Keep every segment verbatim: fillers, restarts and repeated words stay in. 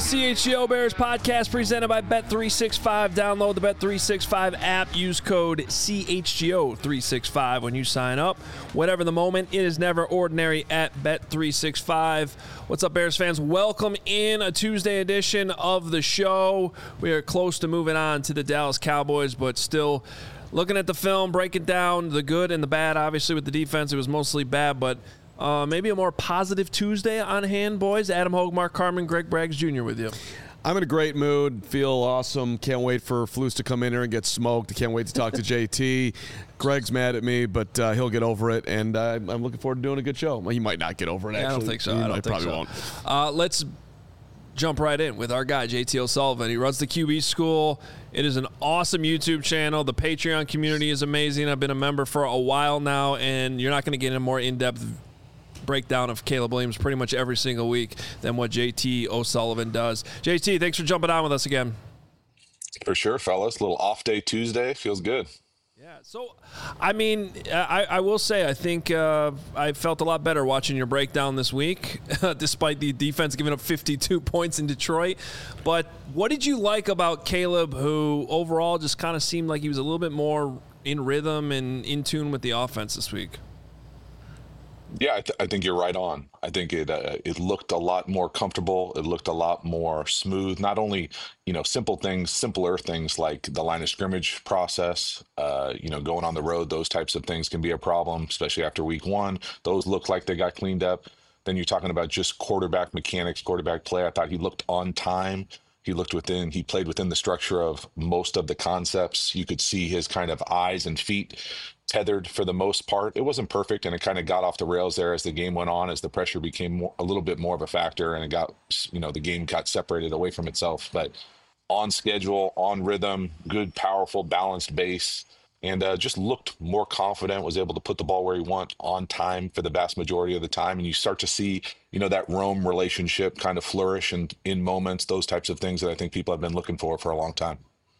C H G O Bears podcast presented by Bet three sixty-five. Download the Bet three sixty-five app. Use code C H G O three sixty-five when you sign up. Whatever the moment, it is never ordinary at Bet three sixty-five. What's up, Bears fans? Welcome in a Tuesday edition of the show. We are close to moving on to the Dallas Cowboys, but still looking at the film, breaking down the good and the bad. Obviously, with the defense, it was mostly bad, but Uh, maybe a more positive Tuesday on hand, boys. Adam Hogue, Mark Carman, Greg Braggs Junior with you. I'm in a great mood. Feel awesome. Can't wait for Flus to come in here and get smoked. Can't wait to talk to J T. Greg's mad at me, but uh, he'll get over it, and uh, I'm looking forward to doing a good show. Well, he might not get over it, actually. Yeah, I don't think so. He I don't think probably so. won't. Uh, let's jump right in with our guy, J T O'Sullivan. He runs the Q B School. It is an awesome YouTube channel. The Patreon community is amazing. I've been a member for a while now, and you're not going to get a more in-depth breakdown of Caleb Williams pretty much every single week than what J T O'Sullivan does. J T, thanks for jumping on with us again. For sure, fellas. A little off day Tuesday. Feels good. Yeah, so, I mean, I, I will say I think uh, I felt a lot better watching your breakdown this week, despite the defense giving up fifty-two points in Detroit. But what did you like about Caleb, who overall just kind of seemed like he was a little bit more in rhythm and in tune with the offense this week? Yeah, I, th- I think you're right on. I think it uh, it looked a lot more comfortable. It looked a lot more smooth. Not only, you know, simple things, simpler things like the line of scrimmage process, uh, you know, going on the road, those types of things can be a problem, especially after week one. Those look like they got cleaned up. Then you're talking about just quarterback mechanics, quarterback play. I thought he looked on time. He looked within, he played within the structure of most of the concepts. You could see his kind of eyes and feet tethered for the most part. It wasn't perfect, and it kind of got off the rails there as the game went on, as the pressure became more, a little bit more of a factor, and it got, you know, the game got separated away from itself. But on schedule, on rhythm, good, powerful, balanced base, and uh, just looked more confident, was able to put the ball where he want on time for the vast majority of the time. And you start to see, you know, that Rome relationship kind of flourish and in moments, those types of things that I think people have been looking for for a long time.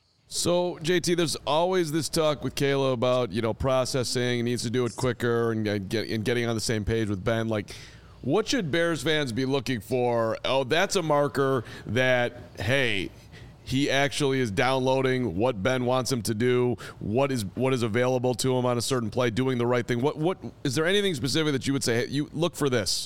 So, J T, there's always this talk with Kayla about, you know, processing, he needs to do it quicker and, uh, get, and getting on the same page with Ben. Like, what should Bears fans be looking for? Oh, that's a marker that, hey, he actually is downloading what Ben wants him to do, what is what is available to him on a certain play, doing the right thing. What what is there anything specific that you would say, hey, you look for this?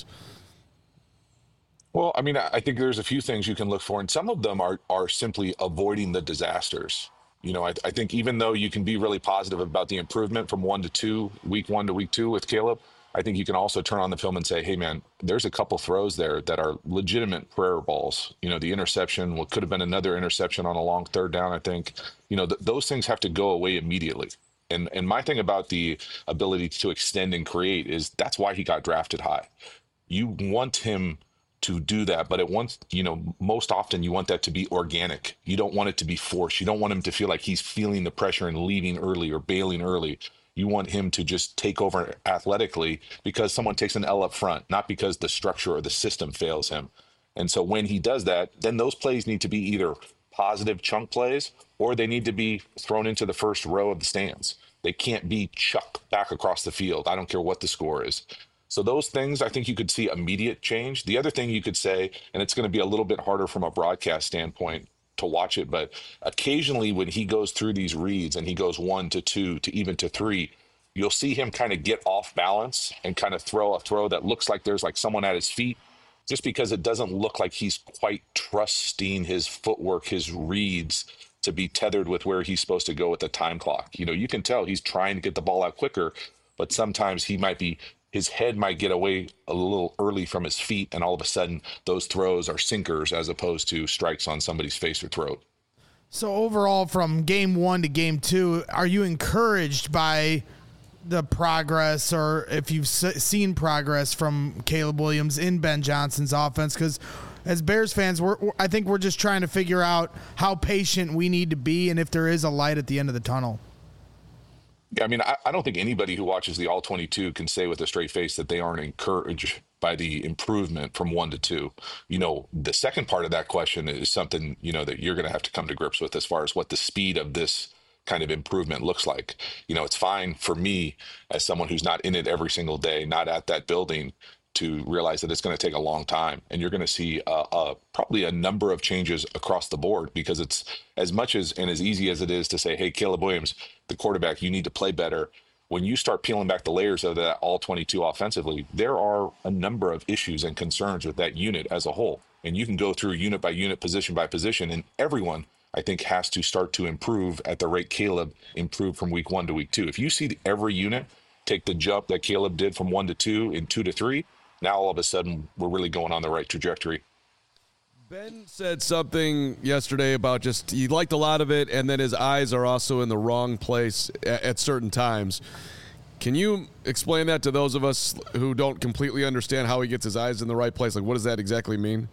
Well, I mean, I think there's a few things you can look for, and some of them are are simply avoiding the disasters. You know, I, I think even though you can be really positive about the improvement from one to two, week one to week two with Caleb, I think you can also turn on the film and say, hey, man, there's a couple throws there that are legitimate prayer balls. You know, the interception, what could have been another interception on a long third down, I think, you know, th- those things have to go away immediately. And and my thing about the ability to extend and create is that's why he got drafted high. You want him to do that, but it wants, you know, most often you want that to be organic. You don't want it to be forced. You don't want him to feel like he's feeling the pressure and leaving early or bailing early. You want him to just take over athletically because someone takes an L up front, not because the structure or the system fails him. And so when he does that, then those plays need to be either positive chunk plays or they need to be thrown into the first row of the stands. They can't be chucked back across the field. I don't care what the score is. So those things, I think you could see immediate change. The other thing you could say, and it's going to be a little bit harder from a broadcast standpoint to watch it, but occasionally when he goes through these reads and he goes one to two to even to three, you'll see him kind of get off balance and kind of throw a throw that looks like there's like someone at his feet, just because it doesn't look like he's quite trusting his footwork, his reads to be tethered with where he's supposed to go with the time clock. You know, you can tell he's trying to get the ball out quicker, but sometimes he might be his head might get away a little early from his feet, and all of a sudden those throws are sinkers as opposed to strikes on somebody's face or throat. So overall, from game one to game two, are you encouraged by the progress, or if you've seen progress from Caleb Williams in Ben Johnson's offense? Because as Bears fans, we're, I think we're just trying to figure out how patient we need to be and if there is a light at the end of the tunnel. Yeah, I mean, I, I don't think anybody who watches the All twenty-two can say with a straight face that they aren't encouraged by the improvement from one to two. You know, the second part of that question is something, you know, that you're going to have to come to grips with as far as what the speed of this kind of improvement looks like. You know, it's fine for me as someone who's not in it every single day, not at that building, to realize that it's going to take a long time, and you're going to see uh, uh, probably a number of changes across the board, because it's as much as and as easy as it is to say, hey, Caleb Williams, the quarterback, you need to play better. When you start peeling back the layers of that all twenty-two offensively, there are a number of issues and concerns with that unit as a whole. And you can go through unit by unit, position by position, and everyone, I think, has to start to improve at the rate Caleb improved from week one to week two. If you see every unit take the jump that Caleb did from one to two and two to three, now all of a sudden we're really going on the right trajectory. Ben said something yesterday about just he liked a lot of it, and then his eyes are also in the wrong place at, at certain times. Can you explain that to those of us who don't completely understand how he gets his eyes in the right place? Like, what does that exactly mean?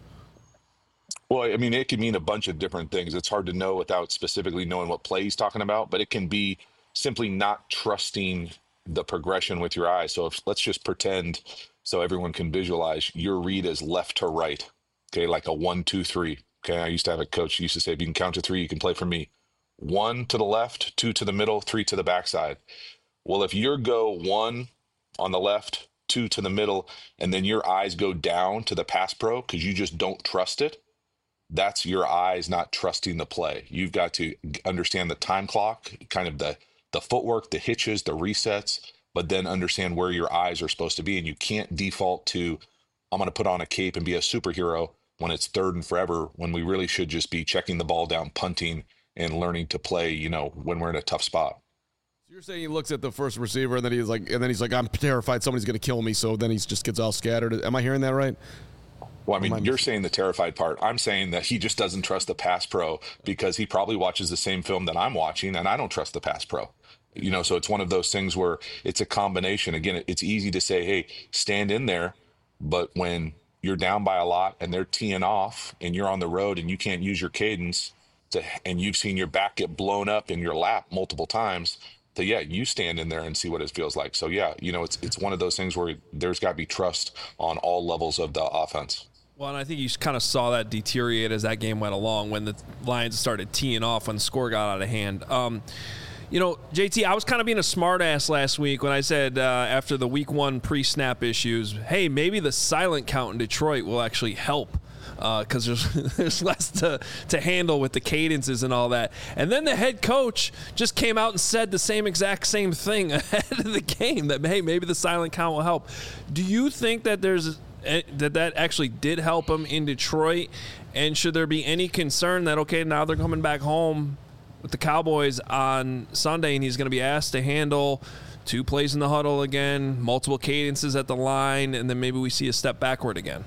Well, I mean, it can mean a bunch of different things. It's hard to know without specifically knowing what play he's talking about, but it can be simply not trusting the progression with your eyes. So if, let's just pretend, so everyone can visualize, your read is left to right, okay, like a one, two, three. Okay, I used to have a coach who used to say, if you can count to three, you can play for me. One to the left, two to the middle, three to the backside. Well, if you go one on the left, two to the middle, and then your eyes go down to the pass pro because you just don't trust it, that's your eyes not trusting the play. You've got to understand the time clock, kind of the, the footwork, the hitches, the resets, but then understand where your eyes are supposed to be. And you can't default to, I'm going to put on a cape and be a superhero when it's third and forever, when we really should just be checking the ball down, punting, and learning to play, you know, when we're in a tough spot. So you're saying he looks at the first receiver and then he's like, and then he's like, I'm terrified somebody's going to kill me. So then he just gets all scattered. Am I hearing that right? Well, I mean, you're saying the terrified part. I'm saying that he just doesn't trust the pass pro because he probably watches the same film that I'm watching, and I don't trust the pass pro. You know, so it's one of those things where it's a combination. Again, it's easy to say, hey, stand in there, but when you're down by a lot and they're teeing off and you're on the road and you can't use your cadence to, and you've seen your back get blown up in your lap multiple times, so yeah, you stand in there and see what it feels like. So yeah, you know, it's it's one of those things where there's got to be trust on all levels of the offense. Well, and I think you kind of saw that deteriorate as that game went along when the Lions started teeing off when the score got out of hand. Um, you know, J T, I was kind of being a smartass last week when I said uh, after the week one pre-snap issues, hey, maybe the silent count in Detroit will actually help because uh, there's, there's less to, to handle with the cadences and all that. And then the head coach just came out and said the same exact same thing ahead of the game, that, hey, maybe the silent count will help. Do you think that there's that that actually did help him in Detroit? And should there be any concern that, okay, now they're coming back home with the Cowboys on Sunday and he's going to be asked to handle two plays in the huddle again, multiple cadences at the line, and then maybe we see a step backward again?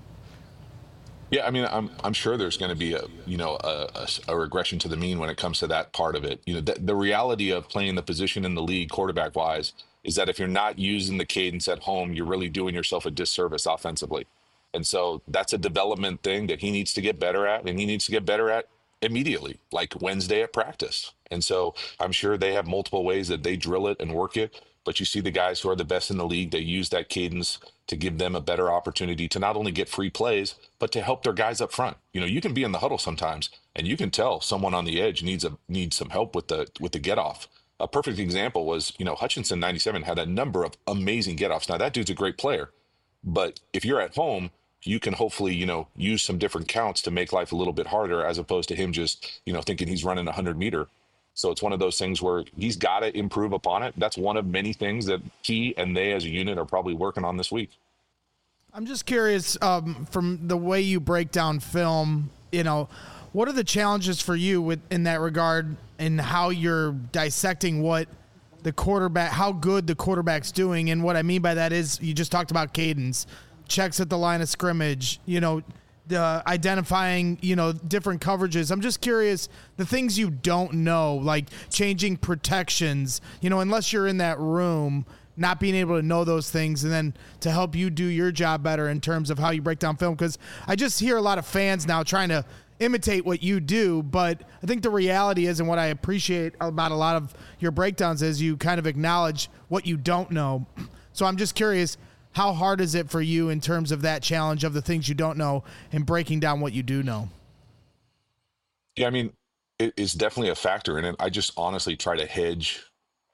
Yeah, I mean, I'm I'm sure there's going to be a you know a, a, a regression to the mean when it comes to that part of it. You know, the, the reality of playing the position in the league quarterback wise is that if you're not using the cadence at home, you're really doing yourself a disservice offensively. And so that's a development thing that he needs to get better at, and he needs to get better at immediately, like Wednesday at practice. And so I'm sure they have multiple ways that they drill it and work it. But you see the guys who are the best in the league, they use that cadence to give them a better opportunity to not only get free plays, but to help their guys up front. You know, you can be in the huddle sometimes and you can tell someone on the edge needs a needs some help with the with the get off. A perfect example was, you know, Hutchinson ninety-seven had a number of amazing get offs. Now that dude's a great player, but if you're at home, you can hopefully, you know, use some different counts to make life a little bit harder, as opposed to him just, you know, thinking he's running a hundred meter. So it's one of those things where he's got to improve upon it. That's one of many things that he and they as a unit are probably working on this week. I'm just curious, um, from the way you break down film, you know, what are the challenges for you with in that regard, and how you're dissecting what the quarterback, how good the quarterback's doing? And what I mean by that is, you just talked about cadence, checks at the line of scrimmage, you know, the identifying, you know, different coverages. I'm just curious, the things you don't know, like changing protections, you know, unless you're in that room, not being able to know those things, and then to help you do your job better in terms of how you break down film. Because I just hear a lot of fans now trying to imitate what you do, but I think the reality is, and what I appreciate about a lot of your breakdowns is, you kind of acknowledge what you don't know. So I'm just curious, how hard is it for you in terms of that challenge of the things you don't know and breaking down what you do know? Yeah, I mean, it is definitely a factor in it. I just honestly try to hedge,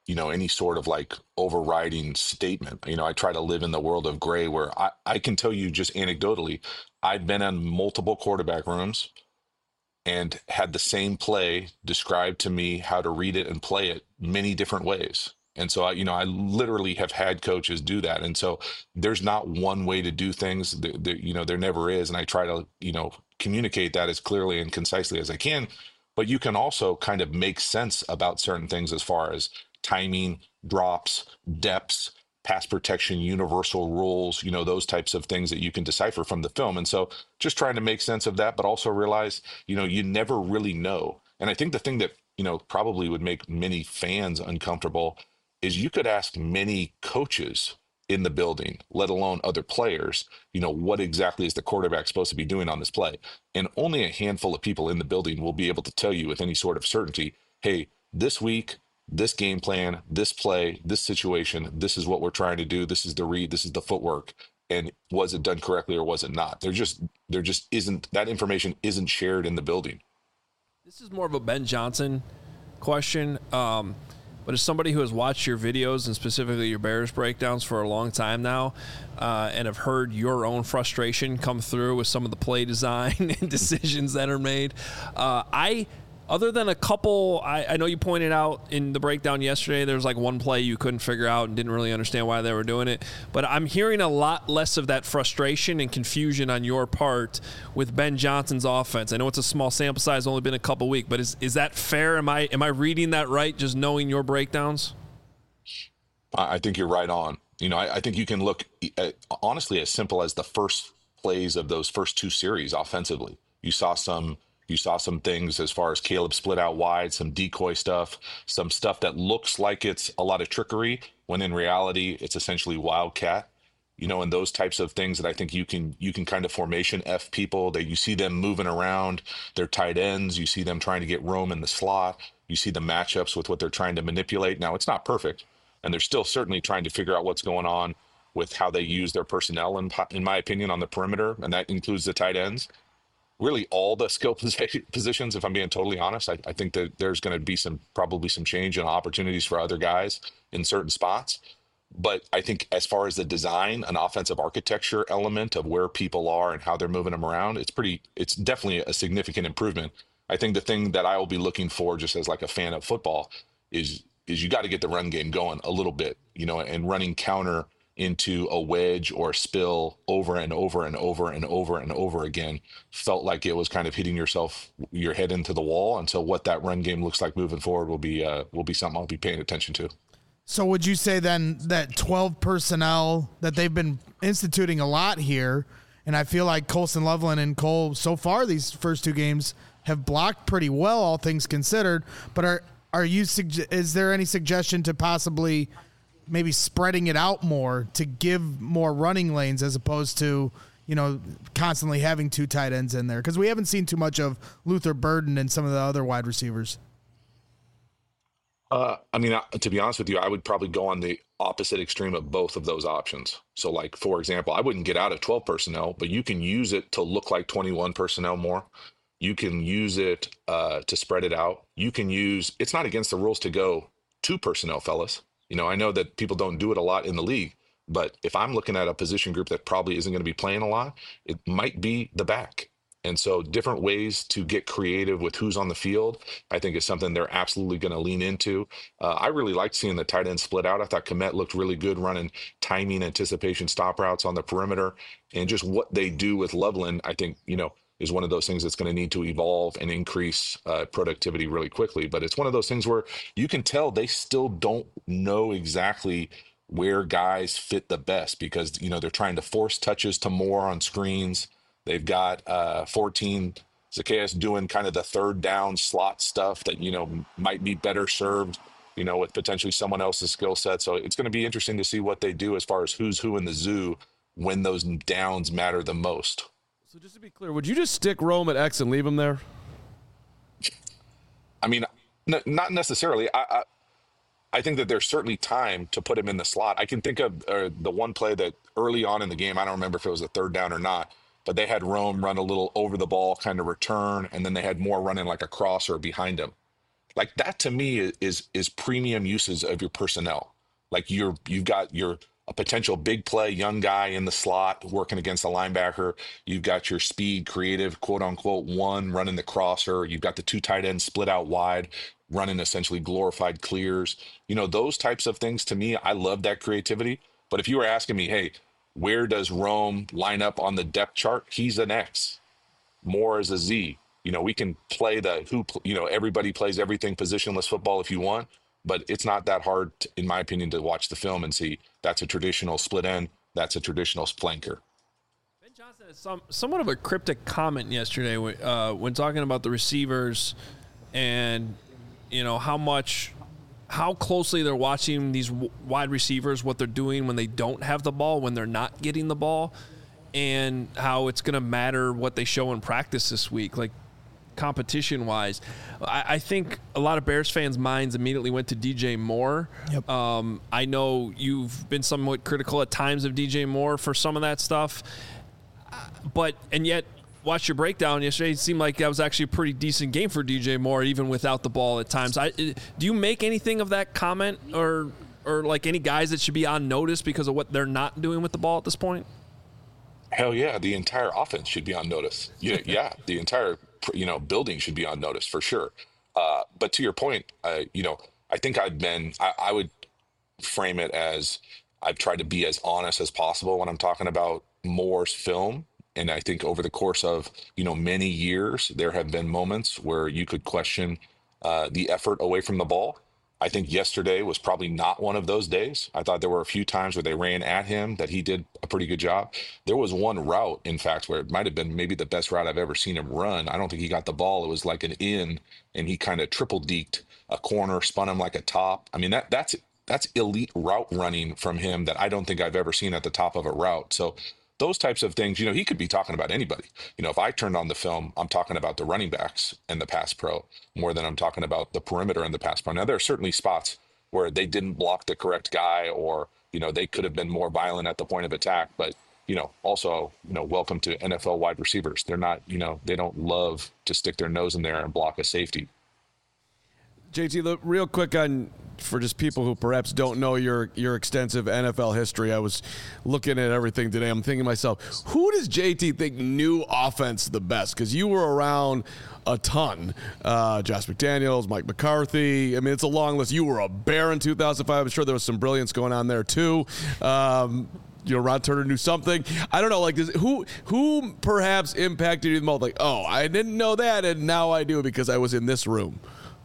you know, any sort of like overriding statement. You know, I try to live in the world of gray where I, I can tell you just anecdotally, I've been in multiple quarterback rooms and had the same play described to me how to read it and play it many different ways. And so, I, you know, I literally have had coaches do that. And so there's not one way to do things. There, there, you know, there never is. And I try to, you know, communicate that as clearly and concisely as I can. But you can also kind of make sense about certain things as far as timing, drops, depths, pass protection, universal rules, you know, those types of things that you can decipher from the film. And so just trying to make sense of that, but also realize, you know, you never really know. And I think the thing that, you know, probably would make many fans uncomfortable is you could ask many coaches in the building, let alone other players, you know, what exactly is the quarterback supposed to be doing on this play? And only a handful of people in the building will be able to tell you with any sort of certainty, hey, this week, this game plan, this play, this situation, this is what we're trying to do. This is the read, this is the footwork. And was it done correctly or was it not? There just, there just isn't, that information isn't shared in the building. This is more of a Ben Johnson question. Um, But as somebody who has watched your videos and specifically your Bears breakdowns for a long time now, uh, and have heard your own frustration come through with some of the play design and decisions that are made, uh, I, other than a couple, I, I know you pointed out in the breakdown yesterday, there was like one play you couldn't figure out and didn't really understand why they were doing it. But I'm hearing a lot less of that frustration and confusion on your part with Ben Johnson's offense. I know it's a small sample size, only been a couple weeks, but is is that fair? Am I am I reading that right? Just knowing your breakdowns. I think you're right on. You know, I, I think you can look at, honestly as simple as the first plays of those first two series offensively. You saw some. You saw some things as far as Caleb split out wide, some decoy stuff, some stuff that looks like it's a lot of trickery when in reality it's essentially wildcat, you know, and those types of things that I think you can you can kind of formation F people that you see them moving around their tight ends. You see them trying to get roam in the slot. You see the matchups with what they're trying to manipulate. Now, it's not perfect, and they're still certainly trying to figure out what's going on with how they use their personnel, in, in my opinion, on the perimeter, and that includes the tight ends. Really all the skill positions, if I'm being totally honest. I, I think that there's going to be some probably some change and opportunities for other guys in certain spots. But I think as far as the design, an offensive architecture element of where people are and how they're moving them around, it's pretty, it's definitely a significant improvement. I think the thing that I will be looking for just as like a fan of football is, is you got to get the run game going a little bit, you know, and running counter into a wedge or spill over and over and over and over and over again felt like it was kind of hitting yourself, your head into the wall. And so what that run game looks like moving forward will be, uh, will be something I'll be paying attention to. So would you say then that twelve personnel that they've been instituting a lot here, and I feel like Colson Loveland and Cole so far these first two games have blocked pretty well, all things considered, but are, are you, is there any suggestion to possibly maybe spreading it out more to give more running lanes as opposed to, you know, constantly having two tight ends in there? Because we haven't seen too much of Luther Burden and some of the other wide receivers. Uh, I mean, to be honest with you, I would probably go on the opposite extreme of both of those options. So like, for example, I wouldn't get out of twelve personnel, but you can use it to look like twenty-one personnel more. You can use it uh, to spread it out. You can use, it's not against the rules to go two personnel, fellas. You know, I know that people don't do it a lot in the league, but if I'm looking at a position group that probably isn't going to be playing a lot, it might be the back. And so different ways to get creative with who's on the field, I think is something they're absolutely going to lean into. Uh, I really liked seeing the tight end split out. I thought Kmet looked really good running timing, anticipation, stop routes on the perimeter, and just what they do with Loveland, I think, you know, is one of those things that's going to need to evolve and increase uh, productivity really quickly. But it's one of those things where you can tell they still don't know exactly where guys fit the best because, you know, they're trying to force touches to more on screens. They've got uh, fourteen Zacchaeus doing kind of the third down slot stuff that, you know, might be better served, you know, with potentially someone else's skill set. So it's going to be interesting to see what they do as far as who's who in the zoo when those downs matter the most. So just to be clear, would you just stick Rome at X and leave him there? I mean, n- not necessarily. I, I I think that there's certainly time to put him in the slot. I can think of uh, the one play that early on in the game, I don't remember if it was a third down or not, but they had Rome run a little over the ball kind of return, and then they had more running like a crosser behind him. Like that to me is is, is premium uses of your personnel. Like you're you've got your a potential big play young guy in the slot working against a linebacker. You've got your speed, creative, quote unquote, one running the crosser. You've got the two tight ends split out wide, running essentially glorified clears. You know, those types of things to me, I love that creativity. But if you were asking me, hey, where does Rome line up on the depth chart? He's an X. Moore is a Z. You know, we can play the who, you know, everybody plays everything positionless football if you want, but it's not that hard, to, in my opinion, to watch the film and see that's a traditional split end, that's a traditional flanker. Ben Johnson had some, somewhat of a cryptic comment yesterday uh, when talking about the receivers and, you know, how much, how closely they're watching these w- wide receivers, what they're doing when they don't have the ball, when they're not getting the ball, and how it's going to matter what they show in practice this week. Like, competition-wise, I, I think a lot of Bears fans' minds immediately went to D J Moore. Yep. Um, I know you've been somewhat critical at times of D J Moore for some of that stuff, but and yet, watch your breakdown yesterday. It seemed like that was actually a pretty decent game for D J Moore, even without the ball at times. I, do you make anything of that comment, or or like any guys that should be on notice because of what they're not doing with the ball at this point? Hell yeah, the entire offense should be on notice. Yeah, yeah, the entire you know building should be on notice for sure. Uh, but to your point, uh, you know, I think I've been. I, I would frame it as I've tried to be as honest as possible when I'm talking about Moore's film. And I think over the course of you know many years, there have been moments where you could question uh, the effort away from the ball. I think yesterday was probably not one of those days. I thought there were a few times where they ran at him that he did a pretty good job. There was one route, in fact, where it might have been maybe the best route I've ever seen him run. I don't think he got the ball. It was like an in, and he kind of triple deked a corner, spun him like a top. I mean, that that's that's elite route running from him that I don't think I've ever seen at the top of a route. So those types of things, you know, he could be talking about anybody. You know, if I turned on the film, I'm talking about the running backs and the pass pro more than I'm talking about the perimeter and the pass pro. Now, there are certainly spots where they didn't block the correct guy, or, you know, they could have been more violent at the point of attack. But, you know, also, you know, welcome to N F L wide receivers. They're not, you know, they don't love to stick their nose in there and block a safety. J T, look, real quick on for just people who perhaps don't know your your extensive N F L history. I was looking at everything today. I'm thinking to myself, who does J T think knew offense the best? Because you were around a ton. Uh, Josh McDaniels, Mike McCarthy. I mean, it's a long list. You were a Bear in two thousand five. I'm sure there was some brilliance going on there too. Um, you know, Ron Turner knew something. I don't know, like, does, who who perhaps impacted you the most? Like, oh, I didn't know that, and now I do because I was in this room.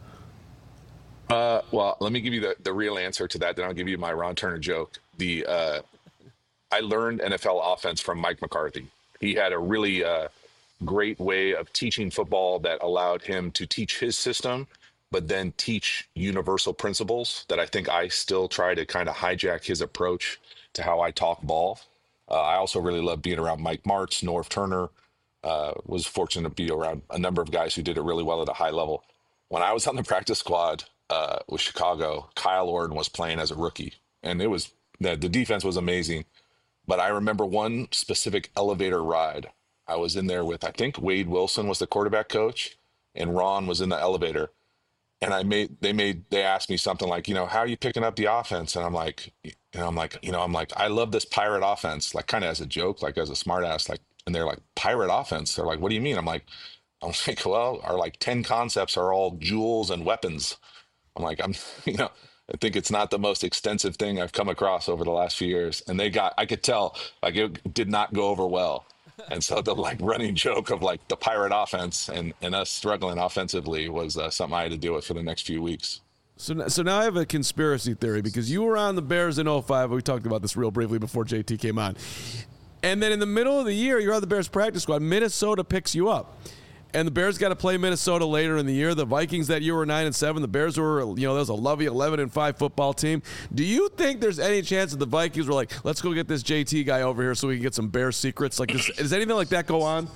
Uh, well, let me give you the, the real answer to that. Then I'll give you my Ron Turner joke. The uh, I learned N F L offense from Mike McCarthy. He had a really uh, great way of teaching football that allowed him to teach his system, but then teach universal principles that I think I still try to kind of hijack his approach to how I talk ball. Uh, I also really love being around Mike Martz, Norv Turner. Uh, was fortunate to be around a number of guys who did it really well at a high level. When I was on the practice squad uh, with Chicago, Kyle Orton was playing as a rookie, and it was the, the defense was amazing. But I remember one specific elevator ride. I was in there with, I think Wade Wilson was the quarterback coach, and Ron was in the elevator. And I made, they made, they asked me something like, you know, how are you picking up the offense? And I'm like, and I'm like, you know, I'm like, I love this pirate offense, like kind of as a joke, like as a smart ass, like, and they're like, pirate offense. They're like, what do you mean? I'm like, I'm like, well, our like ten concepts are all jewels and weapons. I'm like, I'm, you know, I think it's not the most extensive thing I've come across over the last few years. And they got, I could tell, like it did not go over well. And so the like running joke of like the pirate offense and, and us struggling offensively was uh, something I had to deal with for the next few weeks. So, so now I have a conspiracy theory because you were on the Bears in oh five. We talked about this real briefly before J T came on. And then in the middle of the year, you're on the Bears practice squad. Minnesota picks you up. And the Bears got to play Minnesota later in the year. The Vikings that year were nine and seven. The Bears were, you know, that was a lovely eleven and five football team. Do you think there's any chance that the Vikings were like, let's go get this J T guy over here so we can get some Bears secrets? Like, does, does anything like that go on?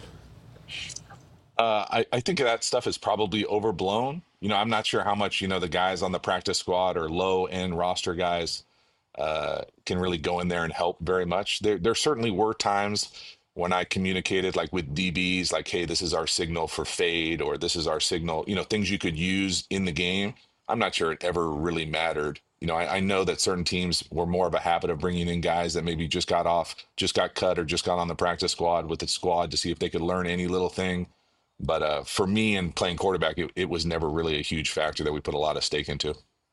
Uh, I, I think that stuff is probably overblown. You know, I'm not sure how much, you know, the guys on the practice squad or low end roster guys uh, can really go in there and help very much. There, there certainly were times when I communicated like with D Bs, like, hey, this is our signal for fade, or this is our signal, you know, things you could use in the game. I'm not sure it ever really mattered. You know, I, I know that certain teams were more of a habit of bringing in guys that maybe just got off, just got cut, or just got on the practice squad with the squad to see if they could learn any little thing. But uh, for me and playing quarterback, it, it was never really a huge factor that we put a lot of stake into.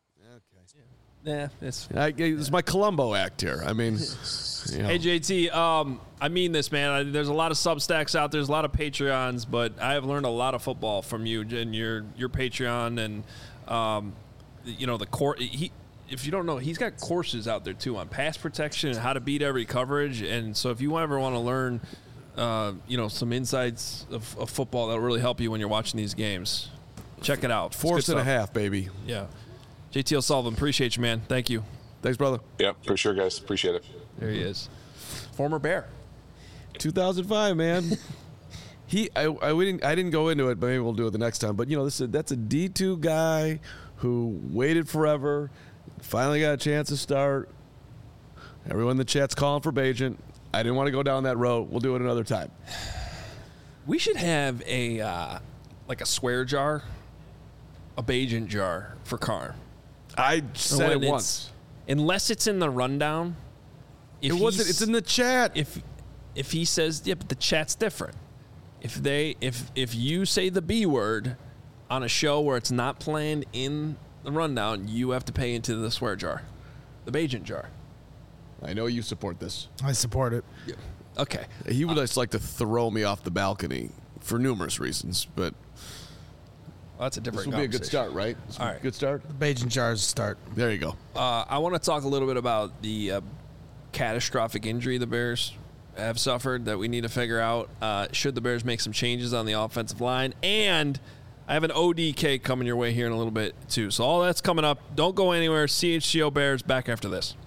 Yeah, it's I, it's my Columbo act here. I mean, you know. Hey, J T, um, I mean this, man. I, there's a lot of Substacks out there. There's a lot of Patreons, but I have learned a lot of football from you and your your Patreon, and um, you know the court. He, if you don't know, he's got courses out there too on pass protection and how to beat every coverage. And so, if you ever want to learn, uh, you know, some insights of, of football that'll really help you when you're watching these games, check it out. Force and a half, baby. Yeah. J T O'Sullivan, appreciate you, man. Thank you. Thanks, brother. Yeah, for sure, guys. Appreciate it. There he is. Former Bear. two thousand five, man. he, I, I, we didn't, I didn't go into it, but maybe we'll do it the next time. But, you know, this is, that's a D two guy who waited forever, finally got a chance to start. Everyone in the chat's calling for Bagent. I didn't want to go down that road. We'll do it another time. We should have a, uh, like a swear jar, a Bagent jar for Carr. I said it When once. it's- Unless it's in the rundown. If It wasn't. he's- It's in the chat. If if he says, yeah, but the chat's different. If they if if you say the B word on a show where it's not planned in the rundown, you have to pay into the swear jar, the Bagent jar. I know you support this. I support it. Okay. He would just like to throw me off the balcony for numerous reasons, but Well, that's a this different would be a good conversation. start, right? This would All be a right. Good start. The Bajan jars start. There you go. Uh, I want to talk a little bit about the uh, catastrophic injury the Bears have suffered that we need to figure out. Uh, should the Bears make some changes on the offensive line? And I have an O D K coming your way here in a little bit, too. So all that's coming up. Don't go anywhere. C H G O Bears back after this.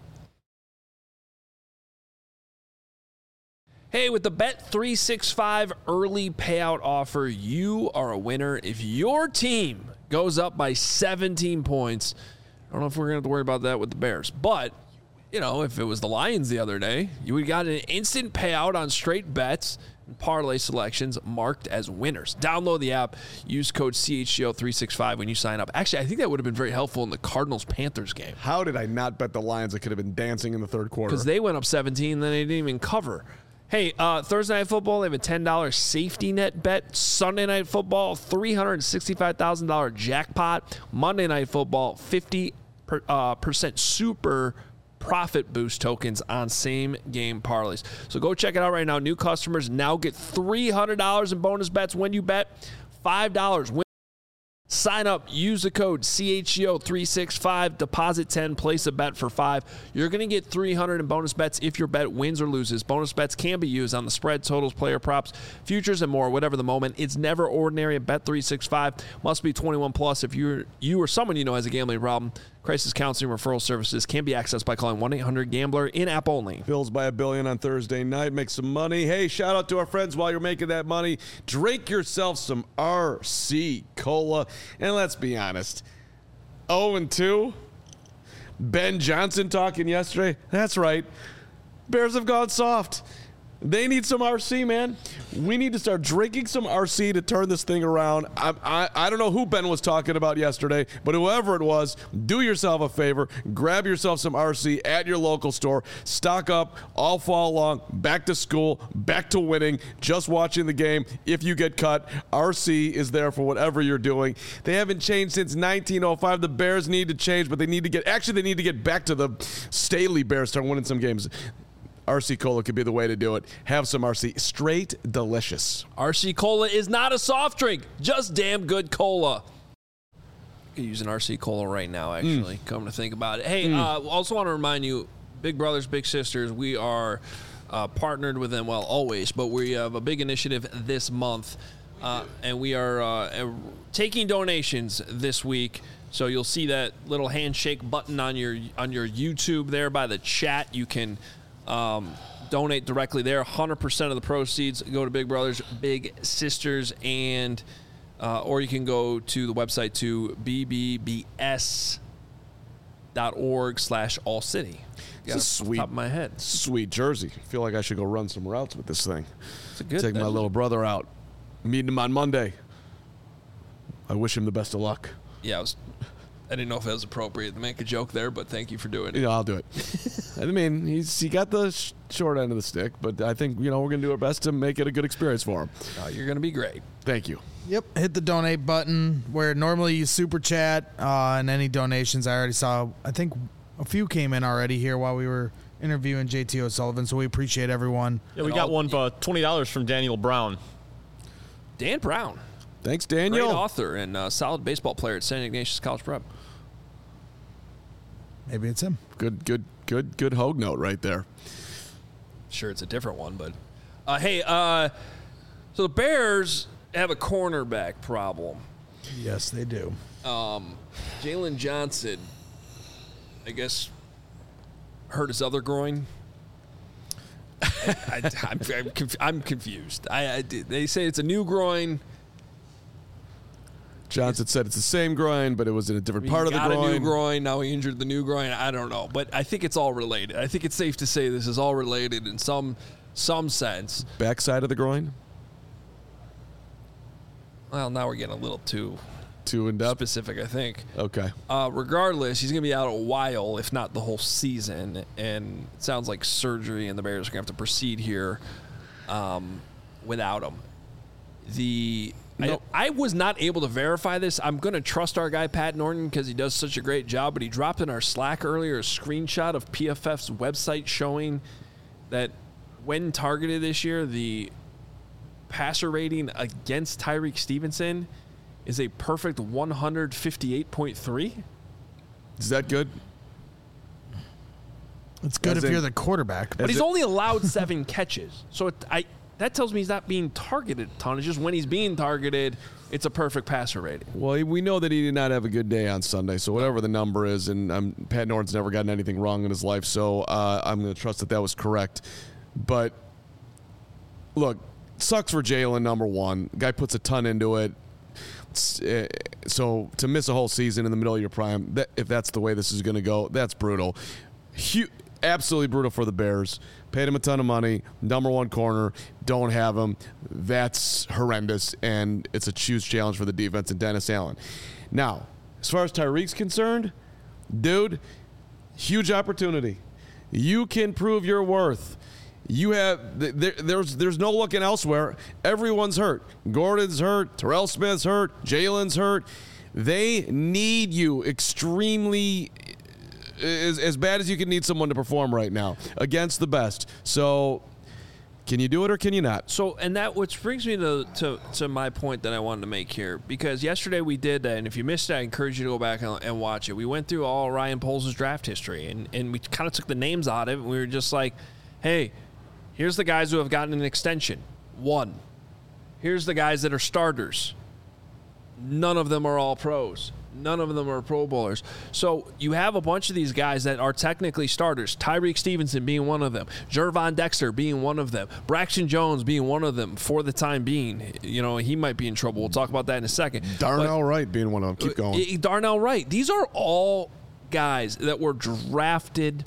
Hey, with the Bet three sixty-five early payout offer, you are a winner if your team goes up by seventeen points. I don't know if we're going to have to worry about that with the Bears, but, you know, if it was the Lions the other day, you would got an instant payout on straight bets and parlay selections marked as winners. Download the app, use code C H G O three sixty-five when you sign up. Actually, I think that would have been very helpful in the Cardinals-Panthers game How did I not bet the Lions that could have been dancing in the third quarter? because they went up seventeen, then they didn't even cover. Hey, uh, Thursday Night Football, they have a ten dollars safety net bet. Sunday Night Football, three hundred sixty-five thousand dollars jackpot. Monday Night Football, fifty percent uh, percent super profit boost tokens on same game parlays. So go check it out right now. New customers now get three hundred dollars in bonus bets when you bet five dollars. Win. Sign up, use the code C H G O three sixty-five, deposit ten, place a bet for five. You're going to get three hundred in bonus bets if your bet wins or loses. Bonus bets can be used on the spread, totals, player props, futures, and more, whatever the moment. It's never ordinary at Bet three sixty-five. Must be twenty-one plus. If you're you or someone you know has a gambling problem, crisis counseling referral services can be accessed by calling one eight hundred gambler in app only. Bills by a billion on Thursday night. Make some money. Hey, shout out to our friends while you're making that money. Drink yourself some R C Cola. And let's be honest, oh and two. Ben Johnson talking yesterday. That's right. Bears have gone soft. They need some R C, man. We need to start drinking some R C to turn this thing around. I, I, I don't know who Ben was talking about yesterday, but whoever it was, do yourself a favor. Grab yourself some R C at your local store. Stock up all fall long. Back to school. Back to winning. Just watching the game. If you get cut, R C is there for whatever you're doing. They haven't changed since nineteen oh five. The Bears need to change, but they need to get, actually, they need to get back to the Staley Bears, start winning some games. R C Cola could be the way to do it. Have some R C. Straight delicious. R C Cola is not a soft drink, just damn good cola. You could use an R C Cola right now, actually, mm. come to think about it. Hey, mm. uh, also want to remind you, Big Brothers, Big Sisters, we are uh, partnered with them, well, always, but we have a big initiative this month, uh, and we are uh, taking donations this week. So you'll see that little handshake button on your on your YouTube there by the chat. You can Um, donate directly there. one hundred percent of the proceeds go to Big Brothers, Big Sisters, and uh, or you can go to the website to B B B S dot org slash all city. It's a sweet, top of my head. Sweet jersey. I feel like I should go run some routes with this thing. It's a good Take thing. my little brother out. Meeting him on Monday. I wish him the best of luck. Yeah, I, was, I didn't know if it was appropriate to make a joke there, but thank you for doing it. Yeah, I'll do it. I mean, he's he got the sh- short end of the stick, but I think, you know, we're going to do our best to make it a good experience for him. Oh, you're going to be great. Thank you. Yep, hit the donate button where normally you super chat uh, and any donations. I already saw, I think a few came in already here while we were interviewing J T O'Sullivan, so we appreciate everyone. Yeah, we And got all- one for twenty dollars from Daniel Brown. Dan Brown, Thanks, great Daniel. author and uh, solid baseball player at Saint Ignatius College Prep. Maybe it's him. Good, good, good, good Hogue note right there. Sure, it's a different one, but uh, hey, uh, so the Bears have a cornerback problem. Yes, they do. Um, Jalen Johnson, I guess, hurt his other groin. I, I'm, I'm, conf- I'm confused. I, I, they say it's a new groin. Johnson said it's the same groin, but it was in a different part he of the got groin. a new groin. Now he injured the new groin. I don't know, but I think it's all related. I think it's safe to say this is all related in some some sense. Backside of the groin? Well, now we're getting a little too Too in depth? specific, I think. Okay. Uh, regardless, he's going to be out a while, if not the whole season. And it sounds like surgery, and the Bears are going to have to proceed here um, without him. The Nope. I, I was not able to verify this. I'm going to trust our guy Pat Norton because he does such a great job. But he dropped in our Slack earlier a screenshot of P F F's website showing that when targeted this year, the passer rating against Tyreek Stevenson is a perfect one fifty-eight point three. Is that good? It's good As if in- you're the quarterback. But Is he's it- only allowed seven catches. So it, I that tells me he's not being targeted a ton. It's just when he's being targeted, it's a perfect passer rating. Well, we know that he did not have a good day on Sunday, so whatever the number is, and um, Pat Norton's never gotten anything wrong in his life, so uh, I'm going to trust that that was correct. But, look, sucks for Jalen, number one. Guy puts a ton into it. Uh, so to miss a whole season in the middle of your prime, that, if that's the way this is going to go, that's brutal. Hu- absolutely brutal for the Bears. Paid him a ton of money. Number one corner. Don't have him. That's horrendous, and it's a huge challenge for the defense and Dennis Allen. Now, as far as Tyreek's concerned, dude, huge opportunity. You can prove your worth. You have there, there's there's no looking elsewhere. Everyone's hurt. Gordon's hurt. Terrell Smith's hurt. Jalen's hurt. They need you extremely as, as bad as you can need someone to perform right now against the best. So, can you do it or can you not? So, and that which brings me to, to to my point that I wanted to make here, because yesterday we did that, and if you missed it, I encourage you to go back and, and watch it. We went through all Ryan Poles' draft history, and, and we kind of took the names out of it, and we were just like, hey, here's the guys who have gotten an extension. One. Here's the guys that are starters. None of them are all pros. None of them are Pro Bowlers. So you have a bunch of these guys that are technically starters. Tyreek Stevenson being one of them. Jervon Dexter being one of them. Braxton Jones being one of them for the time being. You know, he might be in trouble. We'll talk about that in a second. Darnell But, Wright being one of them. Keep going. uh, Darnell Wright. These are all guys that were drafted,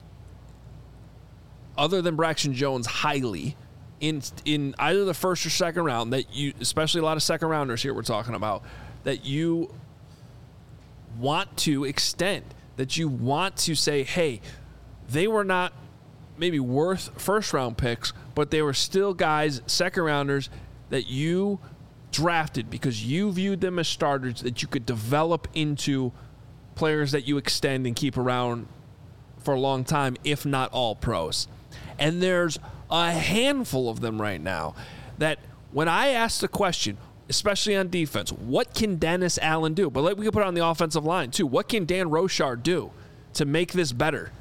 other than Braxton Jones, highly in in either the first or second round, that you, especially a lot of second rounders here we're talking about, that you want to extend, that you want to say, hey, they were not maybe worth first round picks, but they were still guys, second rounders, that you drafted because you viewed them as starters that you could develop into players that you extend and keep around for a long time, if not all pros. And there's a handful of them right now that when I ask the question, especially on defense, what can Dennis Allen do? But we can put it on the offensive line too. What can Dan Rochard do to make this better?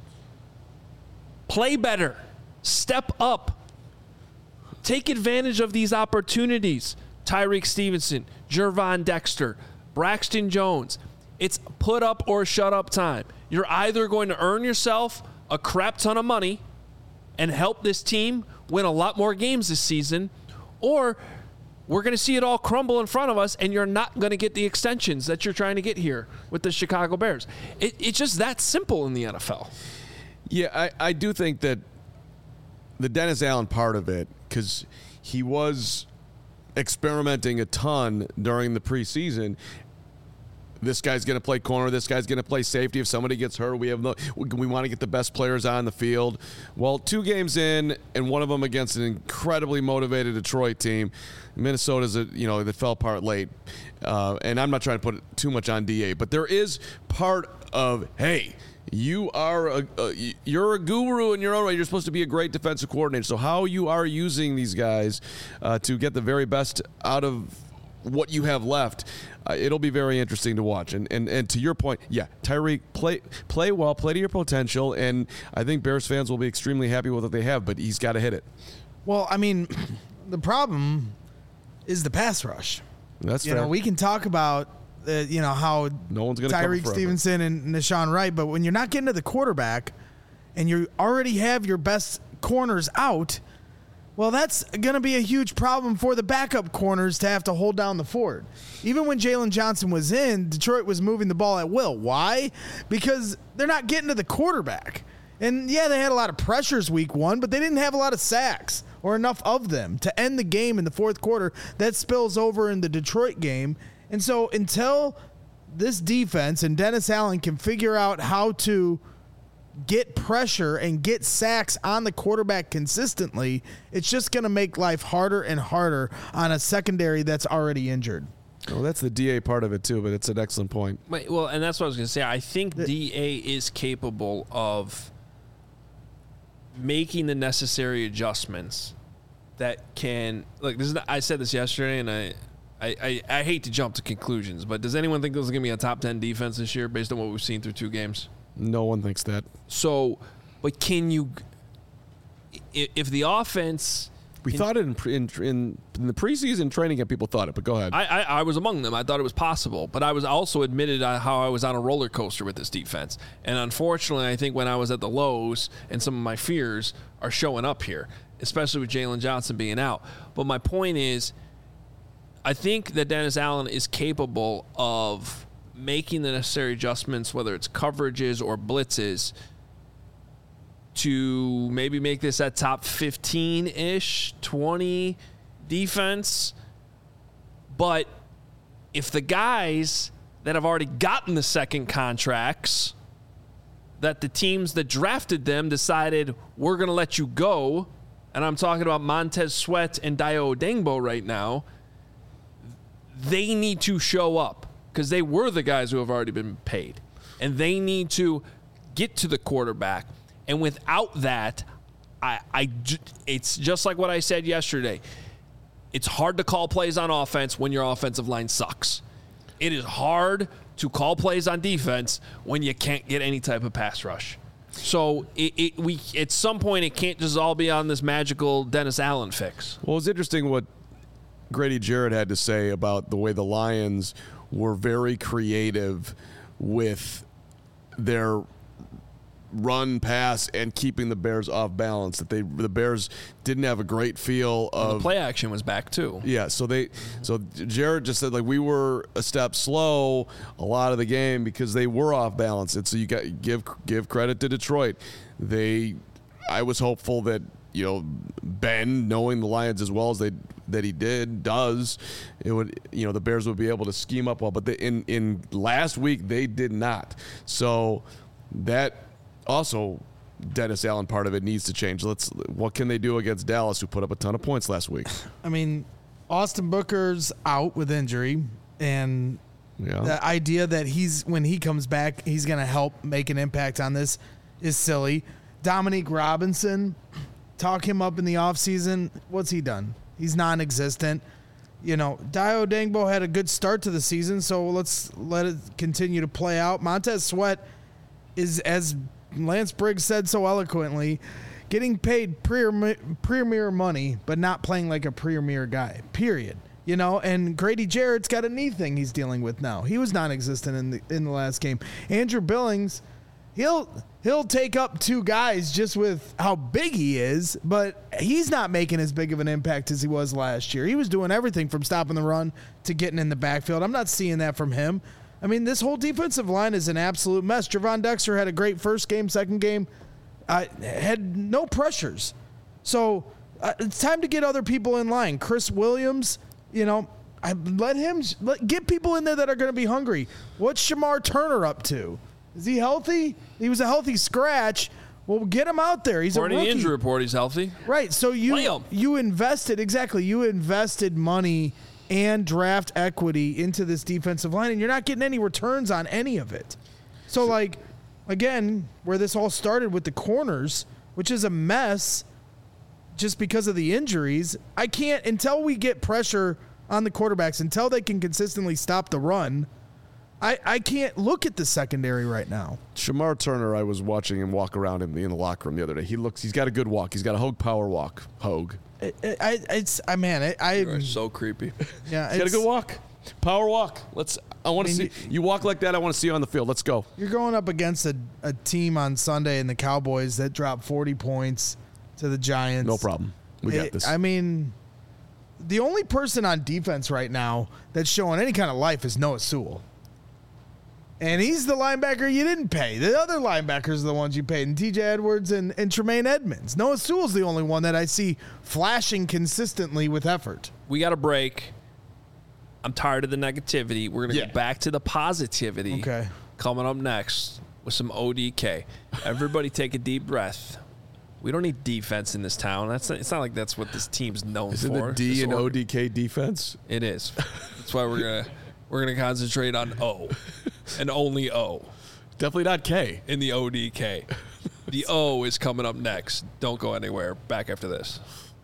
Play better. Step up. Take advantage of these opportunities. Tyreek Stevenson, Jervon Dexter, Braxton Jones. It's put up or shut up time. You're either going to earn yourself a crap ton of money and help this team win a lot more games this season, or we're going to see it all crumble in front of us, and you're not going to get the extensions that you're trying to get here with the Chicago Bears. It, it's just that simple in the N F L. Yeah, I, I do think that the Dennis Allen part of it, because he was experimenting a ton during the preseason. This guy's going to play corner. This guy's going to play safety. If somebody gets hurt, we have no. We want to get the best players on the field. Well, two games in, and one of them against an incredibly motivated Detroit team. Minnesota's a you know that fell apart late, uh, and I'm not trying to put too much on D A, but there is part of hey. You are a, a you're a guru in your own way. You're supposed to be a great defensive coordinator. So how you are using these guys uh, to get the very best out of what you have left, uh, it'll be very interesting to watch. And, and and to your point, yeah, Tyreek, play play well, play to your potential, and I think Bears fans will be extremely happy with what they have. But he's got to hit it. Well, I mean, the problem is the pass rush. That's you fair. know, we can talk about. Uh, you know, how no one's gonna Tyreek Stevenson and Nashawn Wright, but when you're not getting to the quarterback and you already have your best corners out, well, that's going to be a huge problem for the backup corners to have to hold down the fort. Even when Jalen Johnson was in, Detroit was moving the ball at will. Why? Because they're not getting to the quarterback. And, yeah, they had a lot of pressures week one, but they didn't have a lot of sacks or enough of them to end the game in the fourth quarter. That spills over in the Detroit game. And so until this defense and Dennis Allen can figure out how to get pressure and get sacks on the quarterback consistently, it's just going to make life harder and harder on a secondary that's already injured. Well, that's the D A part of it, too, but it's an excellent point. Wait, well, and that's what I was going to say. I think the, D A is capable of making the necessary adjustments that can – look, this is, I said this yesterday, and I – I, I, I hate to jump to conclusions, but does anyone think this is going to be a top ten defense this year based on what we've seen through two games? No one thinks that. So, but can you – if the offense – We thought it in, in, in, in the preseason training camp, people thought it, but go ahead. I, I, I was among them. I thought it was possible, but I was also admitted how I was on a roller coaster with this defense. And unfortunately, I think when I was at the lows and some of my fears are showing up here, especially with Jalen Johnson being out. But my point is – I think that Dennis Allen is capable of making the necessary adjustments, whether it's coverages or blitzes, to maybe make this a top fifteen-ish, twenty defense. But if the guys that have already gotten the second contracts, that the teams that drafted them decided, we're going to let you go, and I'm talking about Montez Sweat and Dayo Odeyingbo right now, they need to show up because they were the guys who have already been paid. And they need to get to the quarterback. And without that, I, I, it's just like what I said yesterday. It's hard to call plays on offense when your offensive line sucks. It is hard to call plays on defense when you can't get any type of pass rush. So it, it, we at some point, it can't just all be on this magical Dennis Allen fix. Well, it's interesting what Grady Jarrett had to say about the way the Lions were very creative with their run, pass, and keeping the Bears off balance. That they the Bears didn't have a great feel of the play action was back too. Yeah, so they so Jarrett just said like we were a step slow a lot of the game because they were off balance. And so you got give give credit to Detroit. They I was hopeful that you know Ben, knowing the Lions as well as they that he did does, it would you know the Bears would be able to scheme up well. But they, in in last week they did not. So that also Dennis Allen part of it needs to change. Let's what can they do against Dallas, who put up a ton of points last week? I mean, Austin Booker's out with injury, and yeah. the idea that he's when he comes back he's going to help make an impact on this is silly. Dominique Robinson, talk him up in the offseason. What's he done? He's non-existent. You know, Dayo Odeyingbo had a good start to the season, so let's let it continue to play out. Montez Sweat is, as Lance Briggs said so eloquently, getting paid premier, premier money, but not playing like a premier guy, period. You know, and Grady Jarrett's got a knee thing he's dealing with now. He was non-existent in the in the last game. Andrew Billings he'll he'll take up two guys just with how big he is, but he's not making as big of an impact as he was last year. He was doing everything from stopping the run to getting in the backfield. I'm not seeing that from him. I mean, this whole defensive line is an absolute mess. Javon Dexter had a great first game, second game, uh, had no pressures. So uh, it's time to get other people in line. Chris Williams, you know, I let him let, get people in there that are going to be hungry. What's Shamar Turner up to? Is he healthy? He was a healthy scratch. Well, get him out there. He's According a to rookie. the injury report, he's healthy. Right. So Play you him. you invested exactly. You invested money and draft equity into this defensive line, and you're not getting any returns on any of it. So, like, again, where this all started with the corners, which is a mess just because of the injuries, I can't, until we get pressure on the quarterbacks, until they can consistently stop the run, I, I can't look at the secondary right now. Shamar Turner, I was watching him walk around in the, in the locker room the other day. He looks, he's got a good walk. He's got a Hogue power walk. Hogue. I, I, it's, I man, I, I You're so creepy. yeah, He's got a it's, good walk. Power walk. Let's. I want to I mean, see you walk like that. I want to see you on the field. Let's go. you're going up against a, a team on Sunday in the Cowboys that dropped forty points to the Giants. No problem. We got It- this. I mean, the only person on defense right now that's showing any kind of life is Noah Sewell. And he's the linebacker you didn't pay. The other linebackers are the ones you paid, and T J Edwards and, and Tremaine Edmonds. Noah Sewell's the only one that I see flashing consistently with effort. We got a break. I'm tired of the negativity. We're going to Yeah. get back to the positivity. Okay. Coming up next with some O D K. Everybody take a deep breath. We don't need defense in this town. That's not, it's not like that's what this team's known Is it for. the D This and org- O D K defense? It is. That's why we're gonna we're gonna concentrate on O and only O Definitely not K. in the O D K. The O is coming up next. Don't go anywhere. Back after this.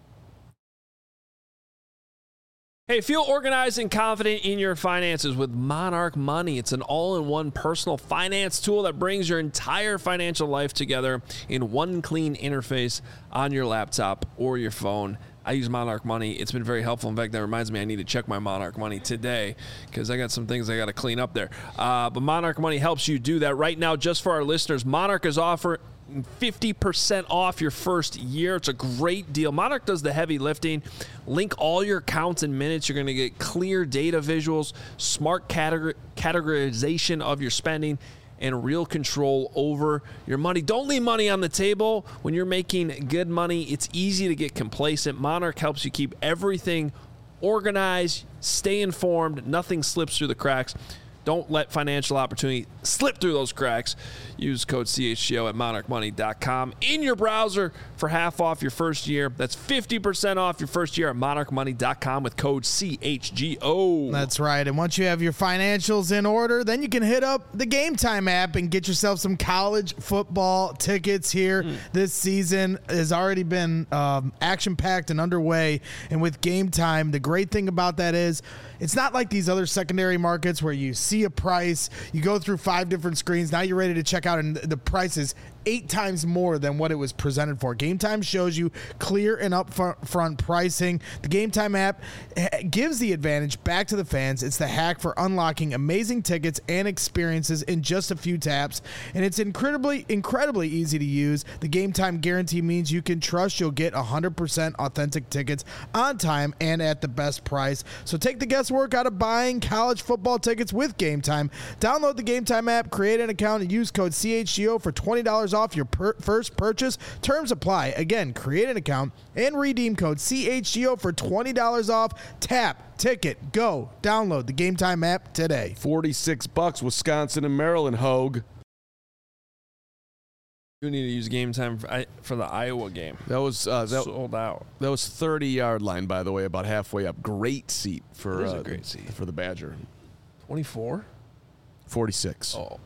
Hey, feel organized and confident in your finances with Monarch Money. It's an all-in-one personal finance tool that brings your entire financial life together in one clean interface on your laptop or your phone. I use Monarch Money. It's been very helpful. In fact, that reminds me I need to check my Monarch Money today because I got some things I got to clean up there. Uh, but Monarch Money helps you do that. Right now, just for our listeners, Monarch is offering fifty percent off your first year. It's a great deal. Monarch does the heavy lifting. Link all your accounts and minutes. You're going to get clear data visuals, smart categor- categorization of your spending, and real control over your money. Don't leave money on the table. When you're making good money, it's easy to get complacent. Monarch helps you keep everything organized, stay informed, nothing slips through the cracks. Don't let financial opportunity slip through those cracks. Use code C H G O at monarch money dot com in your browser for half off your first year. That's fifty percent off your first year at monarch money dot com with code C H G O. That's right. And once you have your financials in order, then you can hit up the Game Time app and get yourself some college football tickets here. Mm. This season has already been um, action-packed and underway. And with Game Time, the great thing about that is it's not like these other secondary markets where you see a price, you go through five different screens, now you're ready to check out, and the price is eight times more than what it was presented for. Game Time shows you clear and upfront pricing. The Game Time app gives the advantage back to the fans. It's the hack for unlocking amazing tickets and experiences in just a few taps, and it's incredibly, incredibly easy to use. The Game Time guarantee means you can trust you'll get one hundred percent authentic tickets on time and at the best price. So take the guesswork out of buying college football tickets with Game Time. Download the Game Time app, create an account, and use code C H G O for twenty dollars off your per- first purchase. Terms apply. Again, create an account and redeem code C H G O for twenty dollars off. Tap, ticket, go. Download the Game Time app today. forty-six bucks, Wisconsin and Maryland, Hogue. You need to use Game Time for, I, for the Iowa game. That was uh, that, Sold out. that was thirty-yard line, by the way, about halfway up. Great seat for It is a uh, great seat. for the Badger. twenty-four? forty-six. Oh.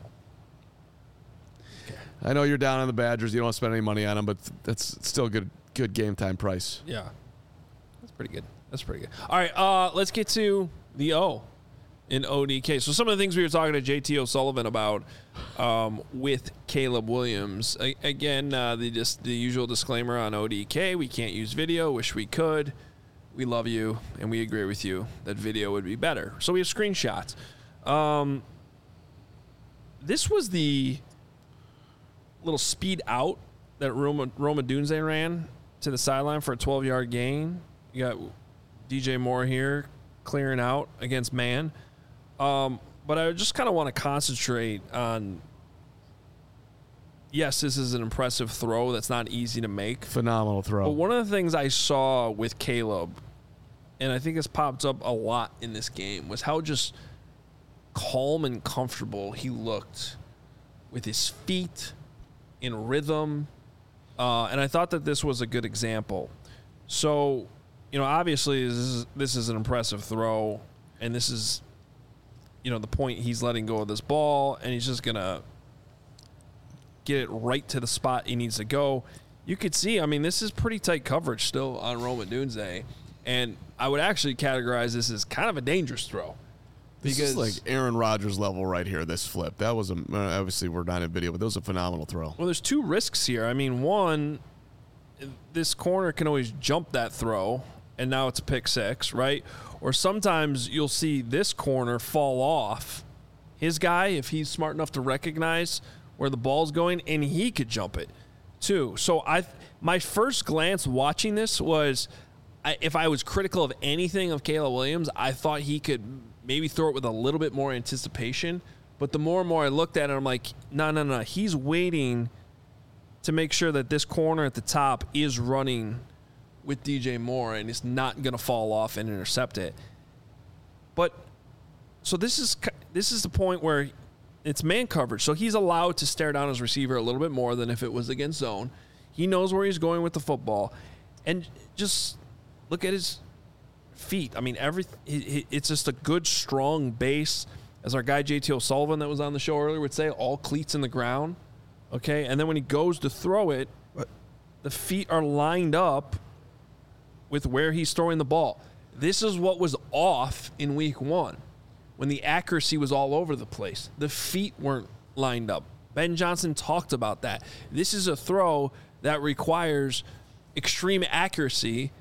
I know you're down on the Badgers. You don't want to spend any money on them, but that's still a good good Game Time price. Yeah. That's pretty good. That's pretty good. All right, uh, let's get to the O in O D K. So some of the things we were talking to J T O'Sullivan about um, with Caleb Williams. A- again, uh, the just the usual disclaimer on O D K. We can't use video. Wish we could. We love you, and we agree with you that video would be better. So we have screenshots. Um, this was the little speed out that Roma, Roma Dunze ran to the sideline for a twelve-yard gain. You got D J Moore here clearing out against man. Um, but I just kind of want to concentrate on, yes, this is an impressive throw that's not easy to make. Phenomenal throw. But one of the things I saw with Caleb, and I think it's popped up a lot in this game, was how just calm and comfortable he looked with his feet in rhythm. Uh, and I thought that this was a good example. So, you know, obviously this is, this is an impressive throw, and this is, you know, the point he's letting go of this ball, and he's just going to get it right to the spot he needs to go. You could see, I mean, this is pretty tight coverage still on Roma Dunze, and I would actually categorize this as kind of a dangerous throw. This is like Aaron Rodgers level right here, this flip. That was, a, obviously we're not in video, but that was a phenomenal throw. Well, there's two risks here. I mean, one, this corner can always jump that throw, and now it's a pick six, right? Or sometimes you'll see this corner fall off his guy if he's smart enough to recognize where the ball's going, and he could jump it too. So I, my first glance watching this was, I, if I was critical of anything of Caleb Williams, I thought he could maybe throw it with a little bit more anticipation. But the more and more I looked at it, I'm like, no, no, no. He's waiting to make sure that this corner at the top is running with D J Moore and it's not going to fall off and intercept it. But so this is this is the point where it's man coverage. So he's allowed to stare down his receiver a little bit more than if it was against zone. He knows where he's going with the football. And just look at his feet. I mean, every it's just a good, strong base. As our guy J T O'Sullivan that was on the show earlier would say, all cleats in the ground. Okay, and then when he goes to throw it, the feet are lined up with where he's throwing the ball. This is what was off in week one when the accuracy was all over the place. The feet weren't lined up. Ben Johnson talked about that. This is a throw that requires extreme accuracy.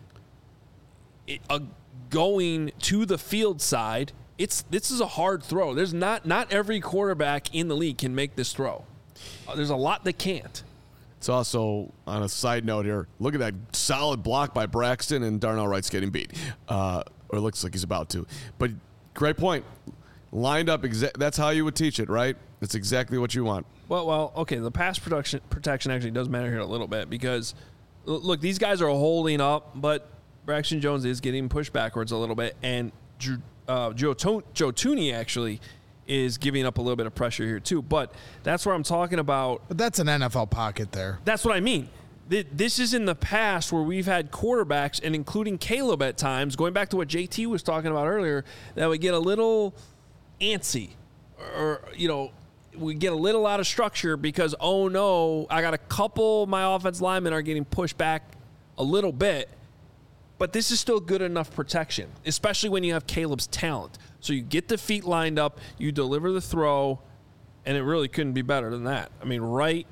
It, uh, going to the field side, it's this is a hard throw. There's not not every quarterback in the league can make this throw. Uh, there's a lot that can't. It's also, on a side note here, look at that solid block by Braxton, and Darnell Wright's getting beat. Uh, or it looks like he's about to. But great point. Lined up, exa- that's how you would teach it, right? That's exactly what you want. Well, well, okay, the pass protection protection actually does matter here a little bit because, look, these guys are holding up, but Braxton Jones is getting pushed backwards a little bit, and uh, Joe, to- Joe Thuney actually is giving up a little bit of pressure here too. But that's where I'm talking about. But that's an N F L pocket there. That's what I mean. This is in the past where we've had quarterbacks, and including Caleb at times, going back to what J T was talking about earlier, that would get a little antsy, or, you know, we get a little out of structure because, oh no, I got a couple of my offense linemen are getting pushed back a little bit. But this is still good enough protection, especially when you have Caleb's talent. So you get the feet lined up, you deliver the throw, and it really couldn't be better than that. I mean, right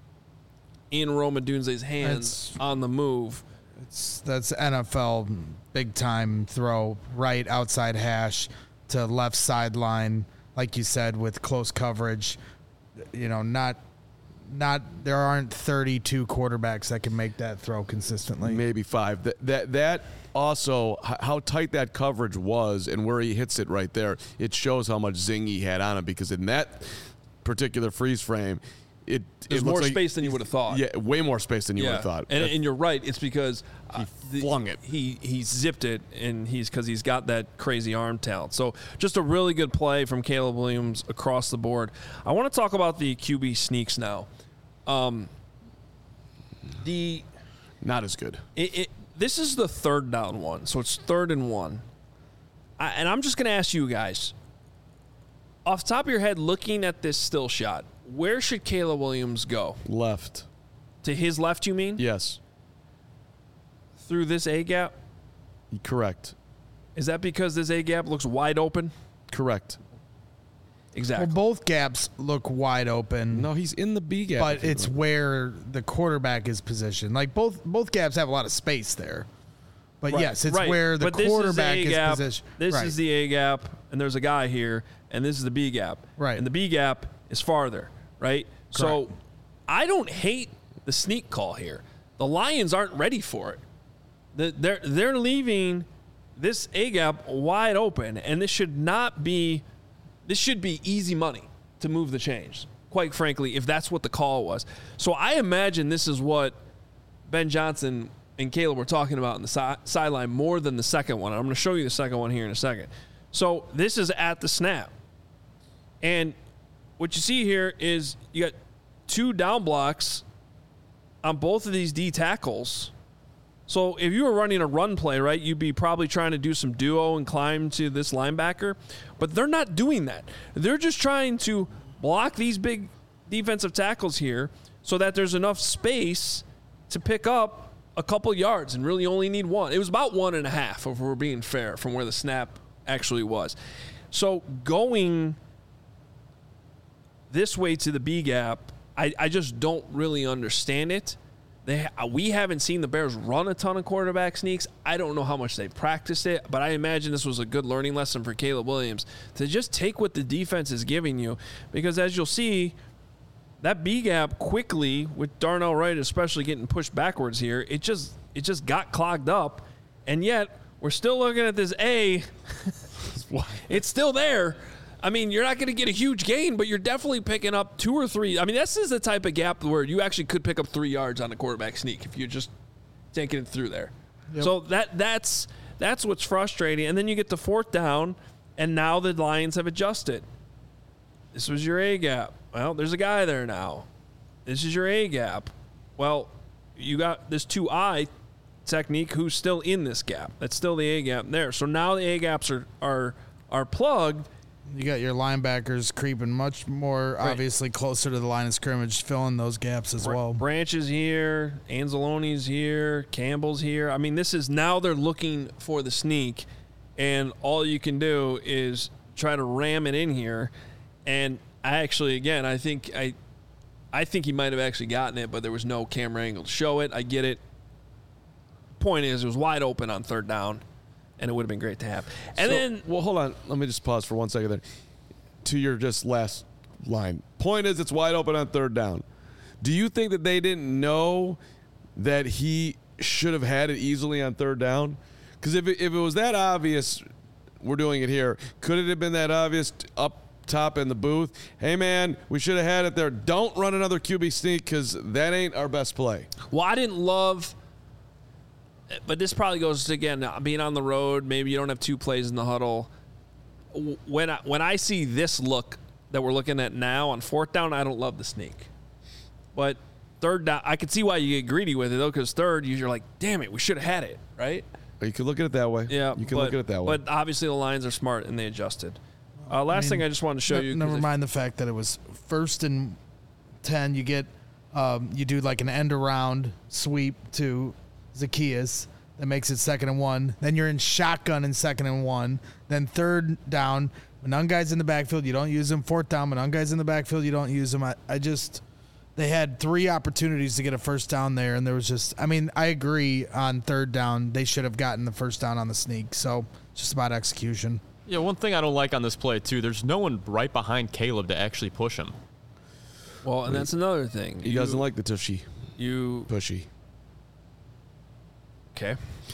in Roma Dunze's hands That's, on the move. It's, that's N F L big-time throw, right outside hash to left sideline, like you said, with close coverage. You know, not not there aren't thirty-two quarterbacks that can make that throw consistently. Maybe five. That that that also how tight that coverage was and where he hits it right there. It shows how much zing he had on him, because in that particular freeze frame, it there's it more like, space than you would have thought. Yeah, way more space than you yeah. would have thought. And, and you're right. It's because he uh, flung the, it. He he zipped it, and he's because he's got that crazy arm talent. So just a really good play from Caleb Williams across the board. I want to talk about the Q B sneaks now. Um, the not as good. It, it this is the third down one, so it's third and one. I, and I'm just going to ask you guys, off the top of your head, looking at this still shot, where should Caleb Williams go? Left. To his left, you mean? Yes. Through this A gap? Correct. Is that because this A gap looks wide open? Correct. Exactly. Well, both gaps look wide open. No, he's in the B gap. But it's where the quarterback is positioned. Like both both gaps have a lot of space there. But right. yes, it's right. where the but quarterback is, is, is positioned. This right. is the A gap, and there's a guy here, and this is the B gap. Right. And the B gap is farther, right? Correct. So I don't hate the sneak call here. The Lions aren't ready for it. The, they're they're leaving this A gap wide open, and this should not be. This should be easy money to move the chains. Quite frankly, if that's what the call was. So I imagine this is what Ben Johnson and Caleb were talking about in the si- sideline more than the second one. I'm going to show you the second one here in a second. So this is at the snap. And what you see here is you got two down blocks on both of these D tackles. So if you were running a run play, right, you'd be probably trying to do some duo and climb to this linebacker. But they're not doing that. They're just trying to block these big defensive tackles here so that there's enough space to pick up a couple yards and really only need one. It was about one and a half, if we're being fair, from where the snap actually was. So going this way to the B gap, I, I just don't really understand it. They we haven't seen the Bears run a ton of quarterback sneaks. I don't know how much they've practiced it, but I imagine this was a good learning lesson for Caleb Williams to just take what the defense is giving you, because as you'll see, that B gap quickly with Darnell Wright especially getting pushed backwards here, it just it just got clogged up, and yet we're still looking at this A. It's still there. I mean, you're not going to get a huge gain, but you're definitely picking up two or three. I mean, this is the type of gap where you actually could pick up three yards on a quarterback sneak if you're just taking it through there. Yep. So that that's that's what's frustrating. And then you get the fourth down, and now the Lions have adjusted. This was your A gap. Well, there's a guy there now. This is your A gap. Well, you got this two I technique who's still in this gap. That's still the A gap there. So now the A gaps are are are plugged. You got your linebackers creeping much more right. obviously closer to the line of scrimmage, filling those gaps as well. Branch is here, Anzalone's here, Campbell's here. I mean, this is now they're looking for the sneak, and all you can do is try to ram it in here. And I actually, again, I think I, I think he might have actually gotten it, but there was no camera angle to show it. I get it. Point is, it was wide open on third down, and it would have been great to have. And so, then, well, hold on. Let me just pause for one second there. To your just last line. Point is, it's wide open on third down. Do you think that they didn't know that he should have had it easily on third down? Because if it, if it was that obvious, we're doing it here. Could it have been that obvious up top in the booth? Hey, man, we should have had it there. Don't run another Q B sneak because that ain't our best play. Well, I didn't love – but this probably goes to, again, being on the road. Maybe you don't have two plays in the huddle. When I, when I see this look that we're looking at now on fourth down, I don't love the sneak. But third down, I could see why you get greedy with it, though, because third, you're like, damn it, we should have had it, right? You could look at it that way. Yeah. You can but, look at it that way. But obviously the Lions are smart, and they adjusted. Uh, last I mean, thing I just wanted to show you. Never if, mind the fact that it was first and ten. You get, um, you do like an end around sweep to Zacchaeus. That makes it second and one. Then you're in shotgun in second and one. Then third down, when none guys in the backfield, you don't use them. Fourth down, when none guys in the backfield, you don't use them. I, I just, they had three opportunities to get a first down there, and there was just, I mean, I agree on third down. They should have gotten the first down on the sneak. So just about execution. Yeah, one thing I don't like on this play, too, there's no one right behind Caleb to actually push him. Well, and that's another thing. He you, doesn't like the tushy. You Pushy. Okay.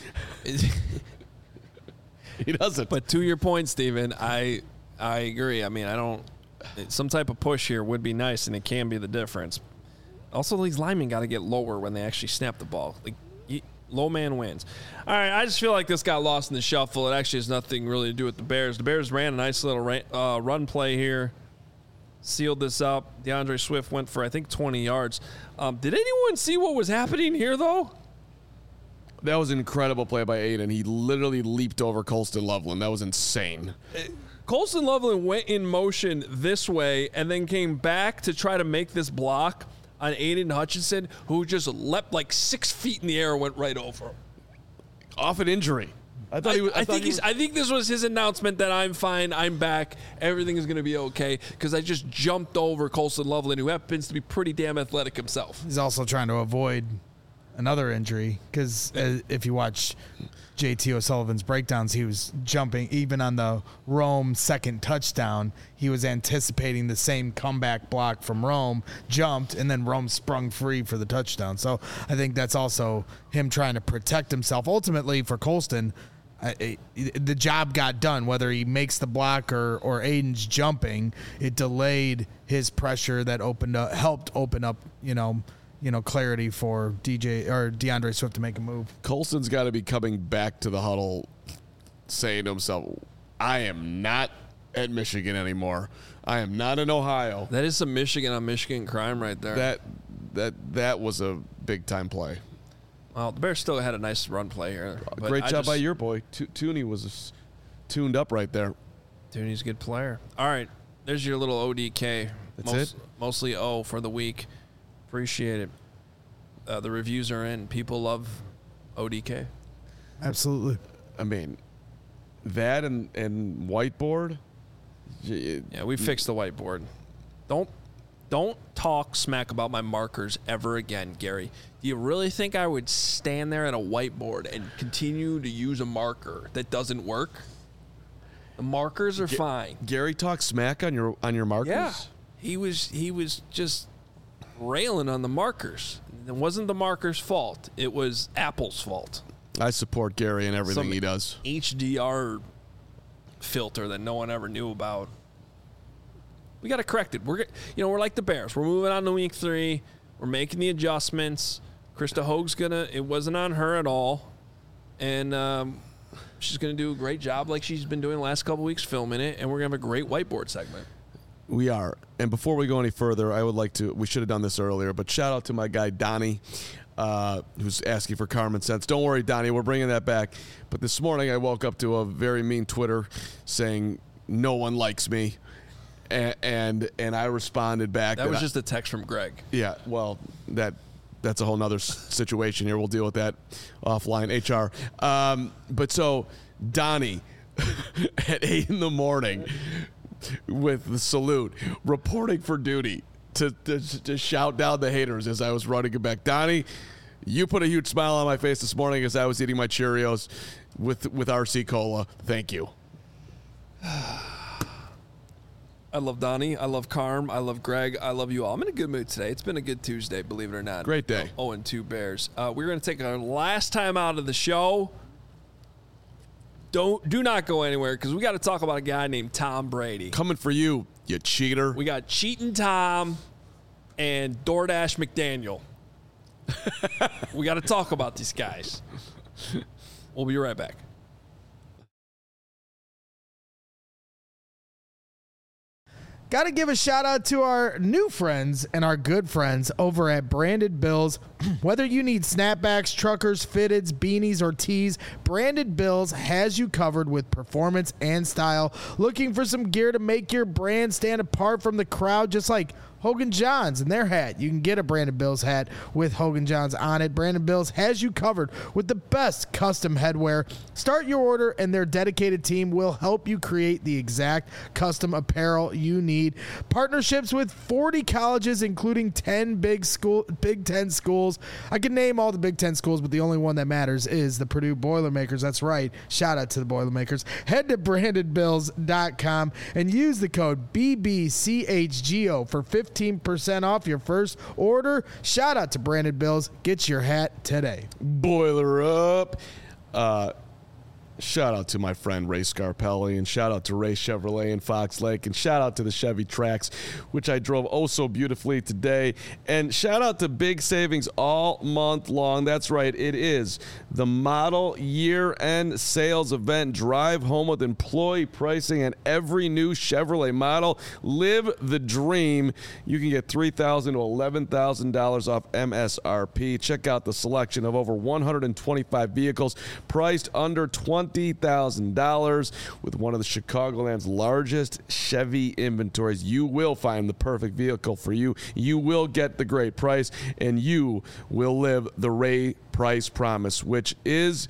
He doesn't. But to your point, Steven, I I agree. I mean, I don't – some type of push here would be nice, and it can be the difference. Also, these linemen got to get lower when they actually snap the ball. Like, you, low man wins. All right, I just feel like this got lost in the shuffle. It actually has nothing really to do with the Bears. The Bears ran a nice little ran, uh, run play here, sealed this up. DeAndre Swift went for, I think, twenty yards. Um, did anyone see what was happening here, though? That was an incredible play by Aiden. He literally leaped over Colston Loveland. That was insane. Colston Loveland went in motion this way and then came back to try to make this block on Aiden Hutchinson, who just leapt like six feet in the air and went right over him. Off an injury. I thought I, he was. I, I thought think he he's. was, I think this was his announcement that I'm fine, I'm back, everything is going to be okay, because I just jumped over Colston Loveland, who happens to be pretty damn athletic himself. He's also trying to avoid another injury because uh, if you watch J T O'Sullivan's breakdowns, he was jumping even on the Rome second touchdown. He was anticipating the same comeback block from Rome, jumped, and then Rome sprung free for the touchdown. So I think that's also him trying to protect himself. Ultimately, for Colston, uh, it, the job got done. Whether he makes the block or or Aiden's jumping, it delayed his pressure that opened up, helped open up, you know. you know, clarity for D J or DeAndre Swift to make a move. Colston's got to be coming back to the huddle saying to himself, I am not at Michigan anymore. I am not in Ohio. That is some Michigan on Michigan crime right there. That that that was a big-time play. Well, the Bears still had a nice run play here. but Great I job just, by your boy. To- Tooney was tuned up right there. Tooney's a good player. All right, there's your little O D K. That's Most, it? Mostly O for the week. Appreciate it. Uh, the reviews are in. People love O D K. Absolutely. I mean, that and, and whiteboard. Yeah, we fixed the whiteboard. Don't don't talk smack about my markers ever again, Gary. Do you really think I would stand there at a whiteboard and continue to use a marker that doesn't work? The markers are Ga- fine. Gary talked smack on your on your markers? Yeah. He was he was just railing on the markers. It wasn't the markers' fault. It was Apple's fault. I support Gary and everything Some he does. H D R filter that no one ever knew about. We got to correct it. We're you know we're like the Bears. We're moving on to week three. We're making the adjustments. Krista Hoag's gonna. It wasn't on her at all, and um, she's gonna do a great job like she's been doing the last couple weeks filming it. And we're gonna have a great whiteboard segment. We are. And before we go any further, I would like to, we should have done this earlier, but shout out to my guy, Donnie, uh, who's asking for Carmen Sense. Don't worry, Donnie, we're bringing that back. But this morning I woke up to a very mean Twitter saying, no one likes me. And and, and I responded back. That was I, just a text from Greg. Yeah, well, that that's a whole nother situation here. We'll deal with that offline, H R. Um, but so, Donnie, at eight in the morning, with the salute, reporting for duty to, to to shout down the haters as I was running it back. Donnie, you put a huge smile on my face this morning as I was eating my Cheerios with with R C Cola. Thank you. I love Donnie. I love Carm. I love Greg. I love you all. I'm in a good mood today. It's been a good Tuesday, believe it or not. Great day. oh and two Bears. Uh, we're going to take our last time out of the show. Don't do not go anywhere because we got to talk about a guy named Tom Brady. Coming for you, you cheater. We got Cheatin' Tom and DoorDash McDaniel. We got to talk about these guys. We'll be right back. Got to give a shout out to our new friends and our good friends over at Branded Bills. Whether you need snapbacks, truckers, fitteds, beanies, or tees, Branded Bills has you covered with performance and style. Looking for some gear to make your brand stand apart from the crowd, just like Hogan Johns and their hat. You can get a Brandon Bills hat with Hogan Johns on it. Brandon Bills has you covered with the best custom headwear. Start your order and their dedicated team will help you create the exact custom apparel you need. Partnerships with forty colleges, including ten big school, Big Ten schools. I can name all the Big Ten schools, but the only one that matters is the Purdue Boilermakers. That's right. Shout out to the Boilermakers. Head to branded bills dot com and use the code B B C H G O for fifteen percent off your first order. Shout out to Branded Bills. Get your hat today. Boiler up. Uh, shout out to my friend Ray Scarpelli, and shout out to Ray Chevrolet in Fox Lake, and shout out to the Chevy Trax, which I drove oh so beautifully today. And shout out to Big Savings all month long. That's right, it is the model year-end sales event. Drive home with employee pricing on every new Chevrolet model. Live the dream. You can get three thousand dollars to eleven thousand dollars off M S R P. Check out the selection of over one hundred twenty-five vehicles priced under twenty thousand dollars with one of the Chicagoland's largest Chevy inventories. You will find the perfect vehicle for you. You will get the great price, and you will live the Ray Price promise, which is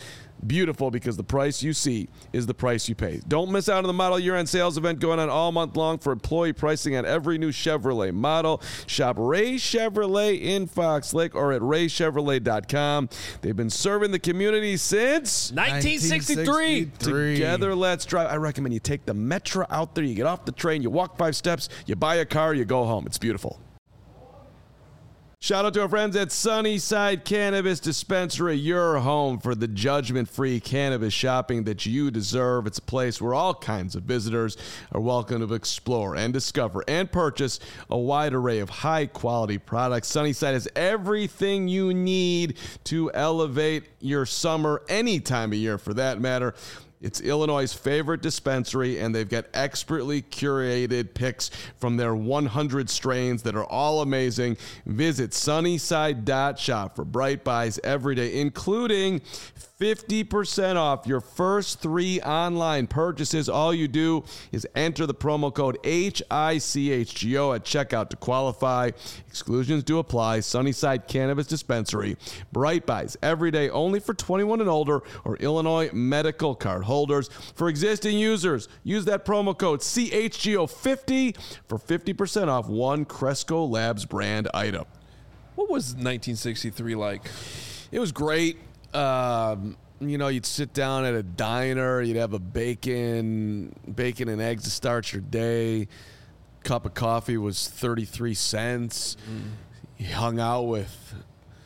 Beautiful, because the price you see is the price you pay. Don't miss out on the model year-end sales event going on all month long for employee pricing on every new Chevrolet model. Shop Ray Chevrolet in Fox Lake or at ray chevrolet dot com. They've been serving the community since nineteen sixty-three. Together, let's drive. I recommend you take the Metro out there. You get off the train, you walk five steps, you buy a car, you go home. It's beautiful. Shout out to our friends at Sunnyside Cannabis Dispensary, your home for the judgment-free cannabis shopping that you deserve. It's a place where all kinds of visitors are welcome to explore and discover and purchase a wide array of high-quality products. Sunnyside has everything you need to elevate your summer, any time of year for that matter. It's Illinois' favorite dispensary, and they've got expertly curated picks from their one hundred strains that are all amazing. Visit sunnyside dot shop for bright buys every day, including fifty percent off your first three online purchases. All you do is enter the promo code H I C H G O at checkout to qualify. Exclusions do apply. Sunnyside Cannabis Dispensary. Bright buys every day, only for twenty-one and older or Illinois medical card holders. For existing users, use that promo code C H G O fifty for fifty percent off one Cresco Labs brand item. What was nineteen sixty-three like? It was great. Um, you know, you'd sit down at a diner, you'd have a bacon, bacon and eggs to start your day. Cup of coffee was thirty-three cents. Mm. You hung out with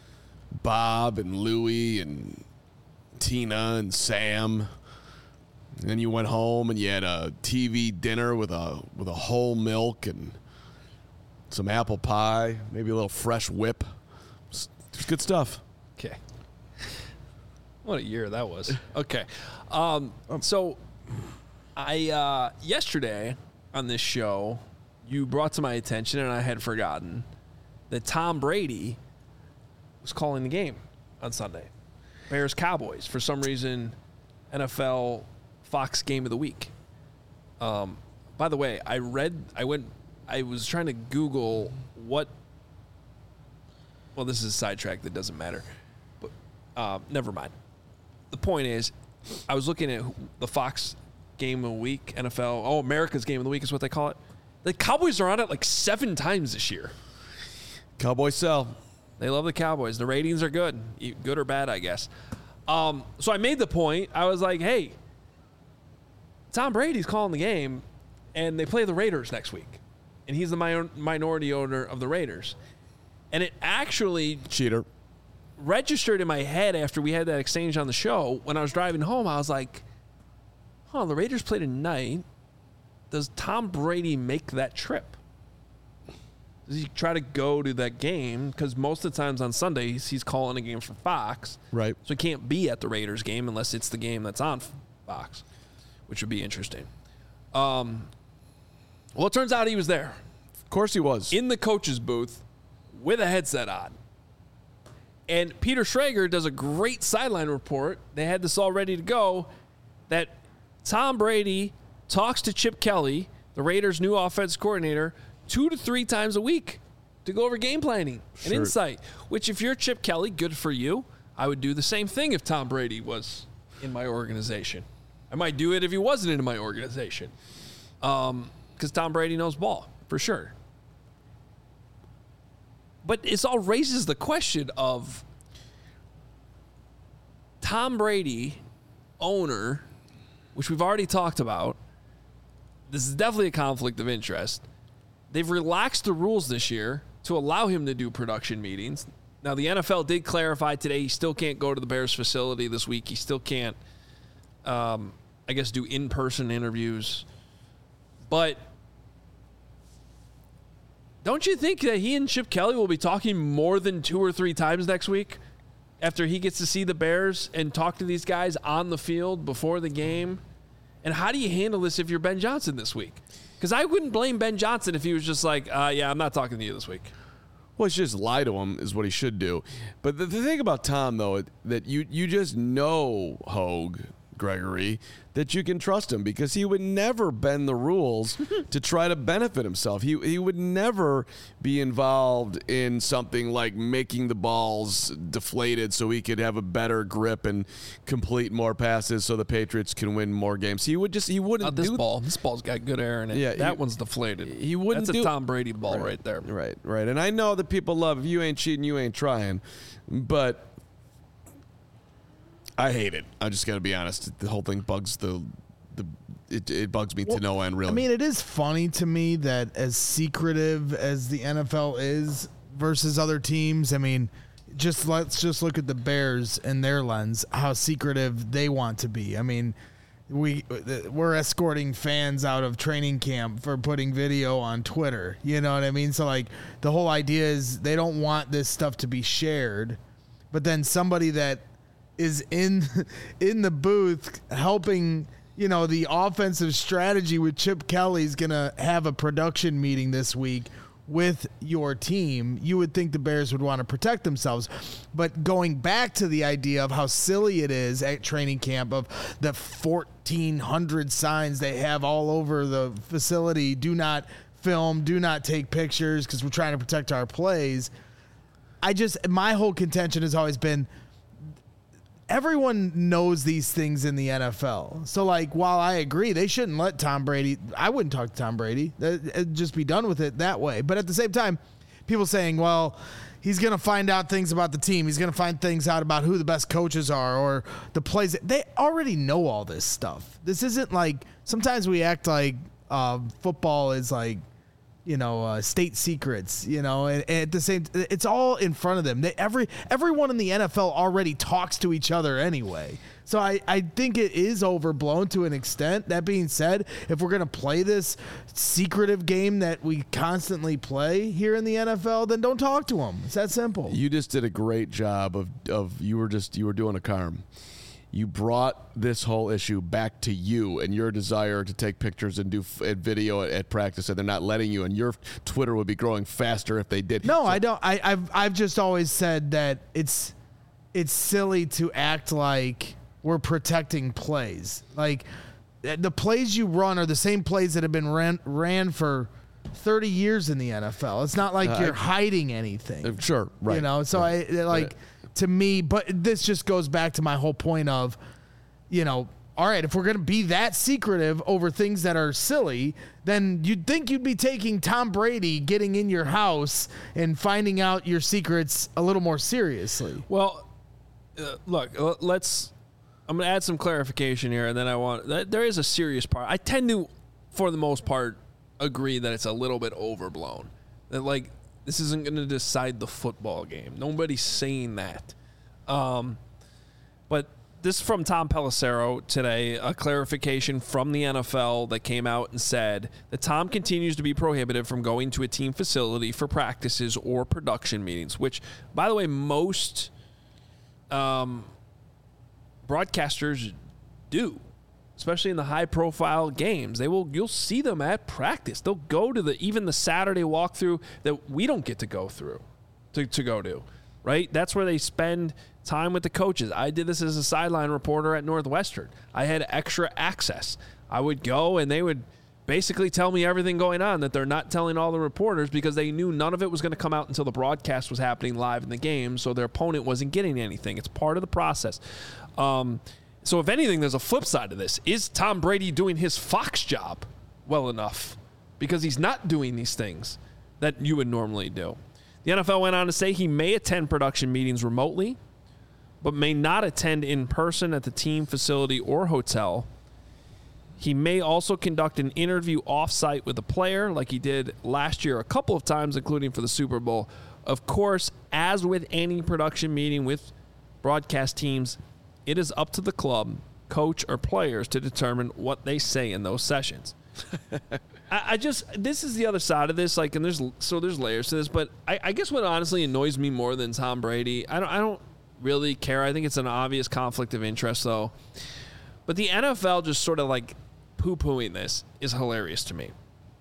Bob and Louie and Tina and Sam. And then you went home and you had a T V dinner with a with a whole milk and some apple pie, maybe a little fresh whip. It was good stuff. Okay. What a year that was. Okay. Um, so I uh, yesterday on this show, you brought to my attention, and I had forgotten, that Tom Brady was calling the game on Sunday. Bears Cowboys. For some reason, N F L Fox Game of the Week. Um, by the way, I read, I went, I was trying to Google what, well, this is a sidetrack that doesn't matter, but uh, never mind. The point is, I was looking at the Fox Game of the Week, N F L, oh, America's Game of the Week is what they call it. The Cowboys are on it like seven times this year. Cowboys sell. They love the Cowboys. The ratings are good, good or bad, I guess. Um, so I made the point. I was like, hey, Tom Brady's calling the game, and they play the Raiders next week. And he's the mi- minority owner of the Raiders. And it actually cheater registered in my head after we had that exchange on the show. When I was driving home, I was like, huh, the Raiders play tonight. Does Tom Brady make that trip? Does he try to go to that game? Because most of the times on Sundays, he's calling a game for Fox. Right. So he can't be at the Raiders game unless it's the game that's on Fox, which would be interesting. Um, well, it turns out he was there. Of course he was. In the coach's booth with a headset on. And Peter Schrager does a great sideline report. They had this all ready to go, that Tom Brady talks to Chip Kelly, the Raiders' new offense coordinator, two to three times a week to go over game planning and Sure. insight, which if you're Chip Kelly, good for you. I would do the same thing if Tom Brady was in my organization. I might do it if he wasn't in my organization. Um, because Tom Brady knows ball, for sure. But it all raises the question of Tom Brady, owner, which we've already talked about. This is definitely a conflict of interest. They've relaxed the rules this year to allow him to do production meetings. Now, the N F L did clarify today he still can't go to the Bears facility this week. He still can't, um, I guess, do in-person interviews. But don't you think that he and Chip Kelly will be talking more than two or three times next week after he gets to see the Bears and talk to these guys on the field before the game? And how do you handle this if you're Ben Johnson this week? Because I wouldn't blame Ben Johnson if he was just like, uh, yeah, I'm not talking to you this week. Well, it's just lie to him is what he should do. But the, the thing about Tom, though, that you you just know, Hogue, Gregory, that you can trust him because he would never bend the rules to try to benefit himself. He he would never be involved in something like making the balls deflated so he could have a better grip and complete more passes so the Patriots can win more games. He would just he wouldn't uh, this do ball. This ball's got good air in it. Yeah, that he, one's deflated. He wouldn't. That's do, a Tom Brady ball right, right there. Right, right. And I know that people love if you ain't cheating, you ain't trying, but I hate it. I just got to be honest. The whole thing bugs the the it, it bugs me well, to no end. Really. I mean, it is funny to me that as secretive as the N F L is versus other teams. I mean, just let's just look at the Bears and their lens, how secretive they want to be. I mean, we we're escorting fans out of training camp for putting video on Twitter. You know what I mean? So like the whole idea is they don't want this stuff to be shared, but then somebody that is in in the booth helping, you know, the offensive strategy with Chip Kelly's going to have a production meeting this week with your team. You would think the Bears would want to protect themselves. But going back to the idea of how silly it is at training camp of the fourteen hundred signs they have all over the facility, do not film, do not take pictures because we're trying to protect our plays. I just, my whole contention has always been, everyone knows these things in the N F L. So, like, while I agree they shouldn't let Tom Brady, I wouldn't talk to Tom Brady. It'd just be done with it that way. But at the same time, people saying, well, he's going to find out things about the team. He's going to find things out about who the best coaches are or the plays. They already know all this stuff. This isn't like, sometimes we act like uh, football is like, you know, uh, state secrets, you know, and, and at the same, it's all in front of them. They, every everyone in the N F L already talks to each other anyway. So I, I think it is overblown to an extent. That being said, if we're going to play this secretive game that we constantly play here in the N F L, then don't talk to them. It's that simple. You just did a great job of, of you were just, you were doing a Carm. You brought this whole issue back to you and your desire to take pictures and do f- and video at, at practice, and they're not letting you. And your Twitter would be growing faster if they did. No, so, I don't. I, I've I've just always said that it's it's silly to act like we're protecting plays. Like the plays you run are the same plays that have been ran ran for thirty years in the N F L. It's not like uh, you're I, hiding anything. Uh, sure, right. You know, so right. I like. Yeah. To me, but this just goes back to my whole point of, you know, all right, if we're going to be that secretive over things that are silly, then you'd think you'd be taking Tom Brady getting in your house and finding out your secrets a little more seriously. Well, uh, look, let's, I'm going to add some clarification here, and then I want, there is a serious part. I tend to, for the most part, agree that it's a little bit overblown. That, like, this isn't going to decide the football game. Nobody's saying that. Um, but this is from Tom Pelissero today, a clarification from the N F L that came out and said that Tom continues to be prohibited from going to a team facility for practices or production meetings, which, by the way, most um, broadcasters do. Especially in the high-profile games, they will. You'll see them at practice. They'll go to the even the Saturday walkthrough that we don't get to go through, to, to go to, right? That's where they spend time with the coaches. I did this as a sideline reporter at Northwestern. I had extra access. I would go, and they would basically tell me everything going on that they're not telling all the reporters because they knew none of it was going to come out until the broadcast was happening live in the game, so their opponent wasn't getting anything. It's part of the process. Um, So if anything, there's a flip side to this. Is Tom Brady doing his Fox job well enough? Because he's not doing these things that you would normally do. The N F L went on to say he may attend production meetings remotely, but may not attend in person at the team facility or hotel. He may also conduct an interview off-site with a player like he did last year a couple of times, including for the Super Bowl. Of course, as with any production meeting with broadcast teams, it is up to the club, coach, or players to determine what they say in those sessions. I, I just, this is the other side of this, like, and there's, so there's layers to this, but I, I guess what honestly annoys me more than Tom Brady, I don't, I don't really care. I think it's an obvious conflict of interest, though. But the N F L just sort of like poo-pooing this is hilarious to me.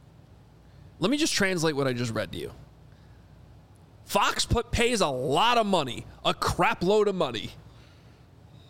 Let me just translate what I just read to you. Fox put, pays a lot of money, a crap load of money,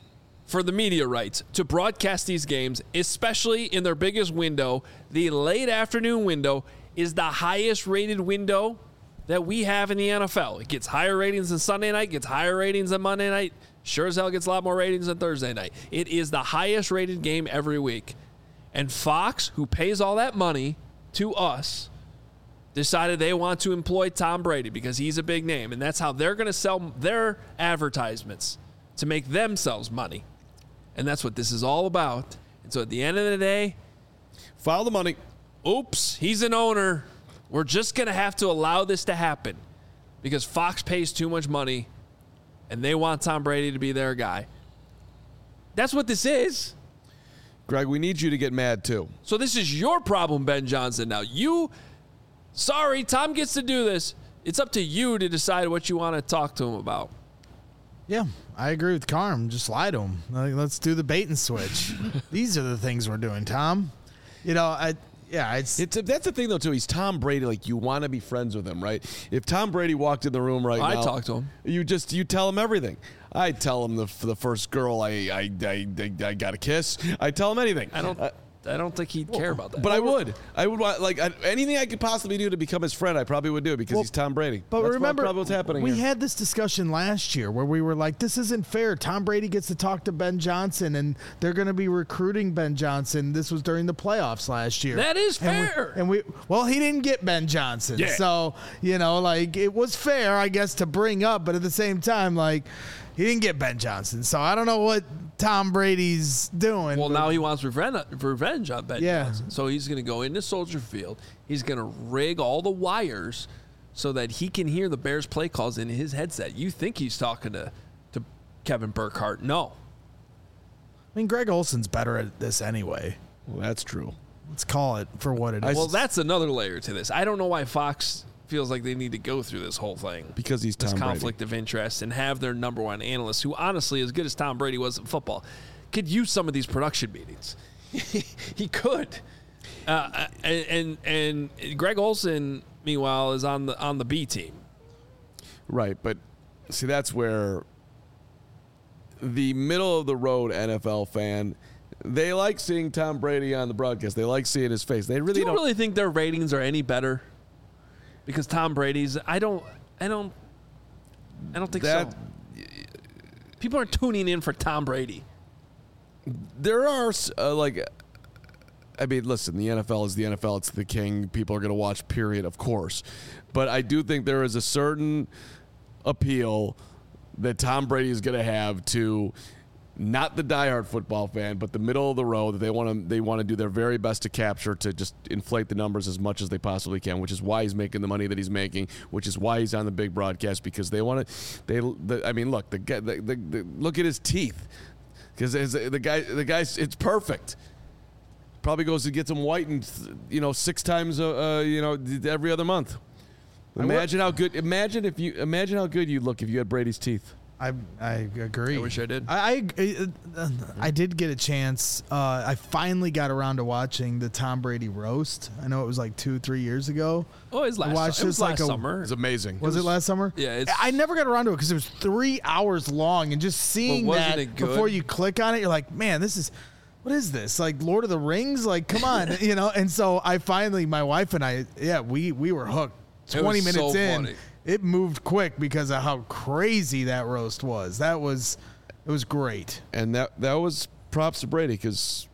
for the media rights to broadcast these games, especially in their biggest window. The late afternoon window is the highest rated window that we have in the N F L. It gets higher ratings than Sunday night, gets higher ratings than Monday night. Sure as hell gets a lot more ratings than Thursday night. It is the highest rated game every week. And Fox, who pays all that money to us, decided they want to employ Tom Brady because he's a big name. And that's how they're going to sell their advertisements, to make themselves money. And that's what this is all about. And so at the end of the day, Follow the money. oops, he's an owner. We're just going to have to allow this to happen because Fox pays too much money and they want Tom Brady to be their guy. That's what this is. Greg, we need you to get mad too. So this is your problem, Ben Johnson. Now, you, sorry, Tom gets to do this. It's up to you to decide what you want to talk to him about. Yeah, I agree with Carm. Just lie to him. Like, let's do the bait and switch. These are the things we're doing, Tom. You know, I yeah, it's, It's a, that's the thing though too. He's Tom Brady. Like you want to be friends with him, right? If Tom Brady walked in the room right I'd now, talk to him. You just you tell him everything. I tell him the the first girl I I I, I, I got a kiss. I tell him anything. I don't. Uh, I don't think he'd care about that. But I would. I would want like I, anything I could possibly do to become his friend. I probably would do it because Well, he's Tom Brady. But That's remember, probably what's happening we here. had this discussion last year where we were like, this isn't fair. Tom Brady gets to talk to Ben Johnson, and they're going to be recruiting Ben Johnson. This was during the playoffs last year. That is And we- fair. And we, well, he didn't get Ben Johnson. Yeah. So, you know, like, it was fair, I guess, to bring up, but at the same time, like, he didn't get Ben Johnson. So I don't know what Tom Brady's doing. Well, but- now he wants revenge, revenge on Ben Yeah. Johnson. So he's going to go into Soldier Field. He's going to rig all the wires so that he can hear the Bears play calls in his headset. You think he's talking to, to Kevin Burkhardt. No. I mean, Greg Olson's better at this anyway. Well, that's true. Let's call it for what it is. Well, that's another layer to this. I don't know why Fox feels like they need to go through this whole thing. Because he's Tom this Brady. conflict of interest and have their number one analyst, who honestly, as good as Tom Brady was at football, could use some of these production meetings. He could. Uh, and, and and Greg Olson, meanwhile, is on the on the B team. Right, but see, that's where the middle of the road N F L fan, they like seeing Tom Brady on the broadcast. They like seeing his face. They really Do you don't. really think their ratings are any better? Because Tom Brady's, I don't, I don't, I don't think That- so. People aren't tuning in for Tom Brady. There are uh, like, I mean, listen, the N F L is the N F L. It's the king. People are going to watch. Period. Of course, but I do think there is a certain appeal that Tom Brady is going to have to not the diehard football fan, but the middle of the road that they want to they want to do their very best to capture, to just inflate the numbers as much as they possibly can, which is why he's making the money that he's making, which is why he's on the big broadcast, because they want to. They, the, I mean, look, the guy, the, the, the, look at his teeth, because the guy, the guy's, it's perfect. Probably goes and gets them whitened, you know, six times, uh, uh, you know, every other month. Imagine how good. Imagine if you imagine how good you'd look if you had Brady's teeth. I I agree. I wish I did. I I, uh, I did get a chance. Uh, I finally got around to watching the Tom Brady roast. I know it was like two, three years ago. Oh, it was last, watched it was this like last a- summer. It's amazing. Was it, last summer? Yeah, it's- I never got around to it because it was three hours long, and just seeing But wasn't that it good? before you click on it, you're like, man, this is. What is this? Like Lord of the Rings? Like, come on, you know? And so I finally, my wife and I, yeah, we we were hooked. It twenty was minutes so in, funny. it moved quick because of how crazy that roast was. That was, it was great. And that that was props to Brady because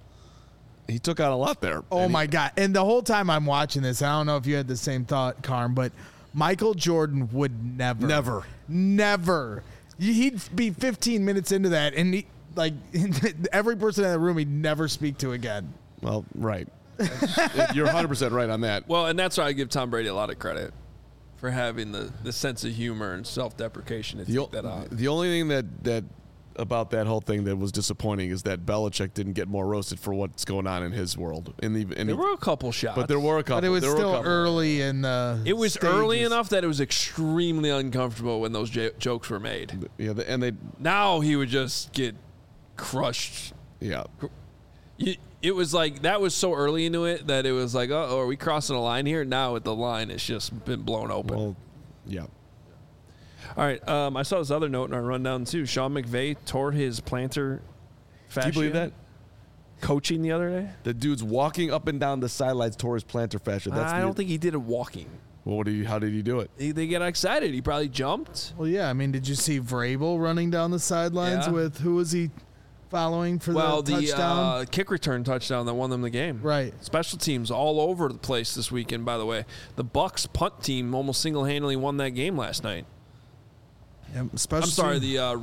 he took out a lot there. Oh And he- my God. And the whole time I'm watching this, I don't know if you had the same thought, Carm, but Michael Jordan would never, Never. never. He'd be fifteen minutes into that, and he, like every person in the room, he'd never speak to again. Well, right. You're one hundred percent right on that. Well, and that's why I give Tom Brady a lot of credit for having the, the sense of humor and self-deprecation to The, take that on. the only thing that, that about that whole thing that was disappointing is that Belichick didn't get more roasted for what's going on in his world. In the, in There the, were a couple shots. but there were a couple. But it was there were a still couple. early in the. It was early stages. enough that it was extremely uncomfortable when those j- jokes were made. Yeah, the, and they, Now he would just get crushed. yeah. You, it was like that was so early into it that it was like, oh, are we crossing a line here? Now with the line, it's just been blown open. Well, yeah. All right. Um, I saw this other note in our rundown too. Sean McVay tore his plantar fascia. Do you believe that? Coaching the other day? The dude's walking up and down the sidelines toward his plantar fascia. That's I the, don't think he did it walking. Well, what do you, how did he do it? He, they get excited. He probably jumped. Well, yeah. I mean, did you see Vrabel running down the sidelines Yeah. with who was he following for Well, the the touchdown? uh, kick return touchdown that won them the game. Right. Special teams all over the place this weekend, by the way. The Bucks punt team almost single-handedly won that game last night. Yeah, special I'm sorry, team- the uh,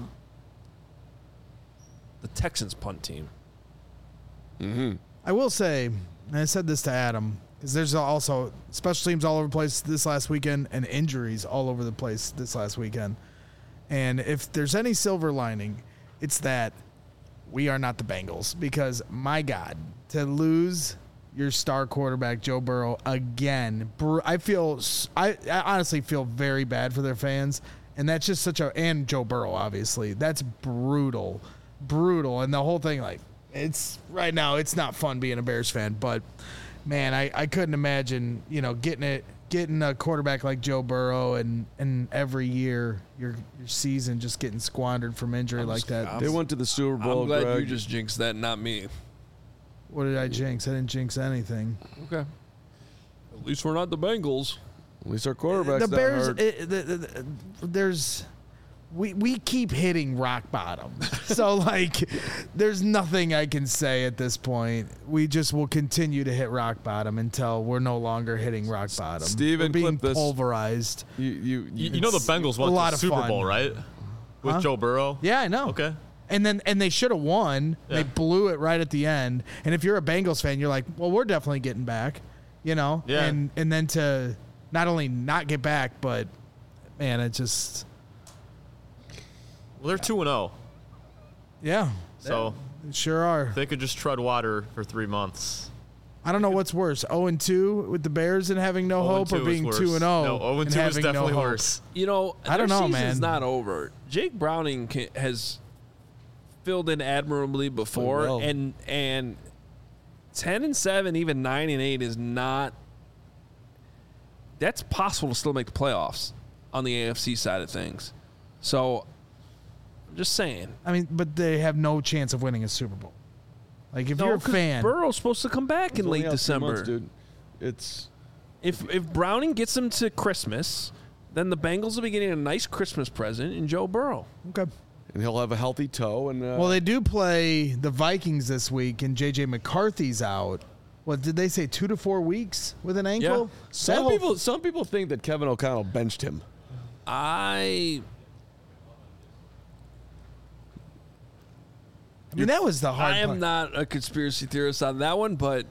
the Texans punt team. Mm-hmm. I will say, and I said this to Adam, because there's also special teams all over the place this last weekend and injuries all over the place this last weekend. And if there's any silver lining, it's that we are not the Bengals, because my God, to lose your star quarterback Joe Burrow again, br- I feel I, I honestly feel very bad for their fans, and that's just such a and Joe Burrow obviously that's brutal, brutal, and the whole thing like it's right now it's not fun being a Bears fan, but man, I, I couldn't imagine you know getting it. Getting a quarterback like Joe Burrow and, and every year your your season just getting squandered from injury like that. They went to the Super Bowl. I'm glad Greg. you just jinxed that, not me. What did I jinx? I didn't jinx anything. Okay. At least we're not the Bengals. At least our quarterback's The not Bears, hurt. it, the, the, the, there's we we keep hitting rock bottom. So like, there's nothing I can say at this point. We just will continue to hit rock bottom until we're no longer hitting rock bottom. Steven, we're being clip this. pulverized. You, you, You, you know the Bengals a went lot to the of Super fun. Bowl, right? With Huh? Joe Burrow. Yeah, I know. Okay. And then and they should have won. Yeah. They blew it right at the end. And if you're a Bengals fan, you're like, well, we're definitely getting back, you know. Yeah. And and then to not only not get back, but man, it just Well, they're two and zero, yeah, so they sure are. they could just tread water for three months. I don't know what's worse, zero and two with the Bears and having no oh and hope, two or is being worse. two and zero. No, oh and two is having no definitely hope. worse. You know, I don't their know, season's man. not over. Jake Browning ca- has filled in admirably before, well. and and ten and seven, even nine and eight is not. That's possible to still make the playoffs on the A F C side of things. So, I'm just saying. I mean, but they have no chance of winning a Super Bowl. Like if No, you're a 'cause fan, Burrow's supposed to come back in It's only late out three December. months, dude. It's If if Browning gets them to Christmas, then the Bengals will be getting a nice Christmas present in Joe Burrow. okay. and he'll have a healthy toe. And uh, Well, they do play the Vikings this week, and J J McCarthy's out. What did they say? Two to four weeks with an ankle. That some whole- people some people think that Kevin O'Connell benched him. I I mean, that was the hard. I am part. not a conspiracy theorist on that one, but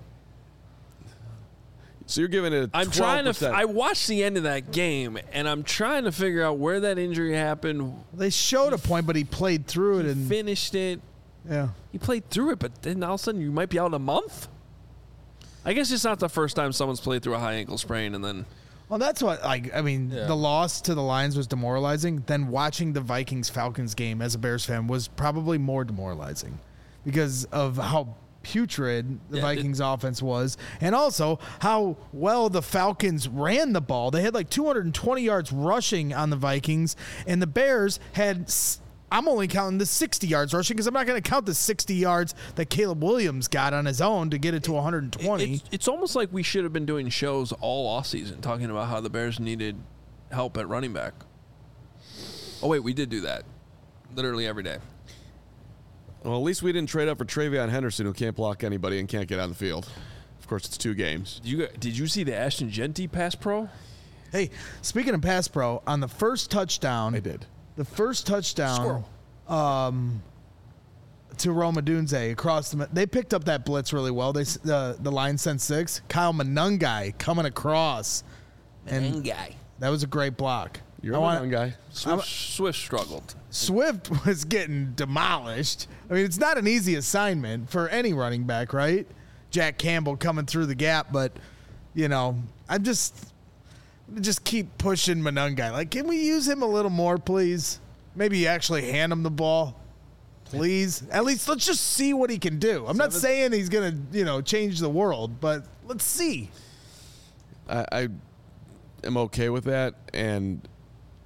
So you're giving it. A I'm trying to. F- twelve percent. I watched the end of that game, and I'm trying to figure out where that injury happened. They showed a point, but he played through it, and Finished it. yeah. He played through it, but then all of a sudden you might be out a month. I guess it's not the first time someone's played through a high ankle sprain, and then Well, that's what. Like, I mean, Yeah. the loss to the Lions was demoralizing. Then watching the Vikings Falcons game as a Bears fan was probably more demoralizing because of how putrid the Yeah, Vikings offense was, and also how well the Falcons ran the ball. They had like two hundred twenty yards rushing on the Vikings, and the Bears had. s- I'm only counting the sixty yards rushing because I'm not going to count the sixty yards that Caleb Williams got on his own to get it to one hundred twenty. it's, it's almost like we should have been doing shows all offseason talking about how the Bears needed help at running back. Oh wait, we did do that literally every day. Well, at least we didn't trade up for Travion Henderson, who can't block anybody and can't get on the field. Of course, it's two games. Did you did you see the Ashton Genty pass pro? Hey, speaking of pass pro, on the first touchdown, I did. The first touchdown Squirrel. um, to Roma Dunze across the. They picked up that blitz really well. They s- the the line sent six. Kyle Monungai coming across, and guy. that was a great block. You're I a want- young guy. Swift, Swift struggled. Swift was getting demolished. I mean, it's not an easy assignment for any running back, right? Jack Campbell coming through the gap, but you know, I'm just just keep pushing Monungai. Like, can we use him a little more, please? Maybe actually hand him the ball, please. At least let's just see what he can do. I'm not saying he's gonna, you know, change the world, but let's see. I, I am okay with that, and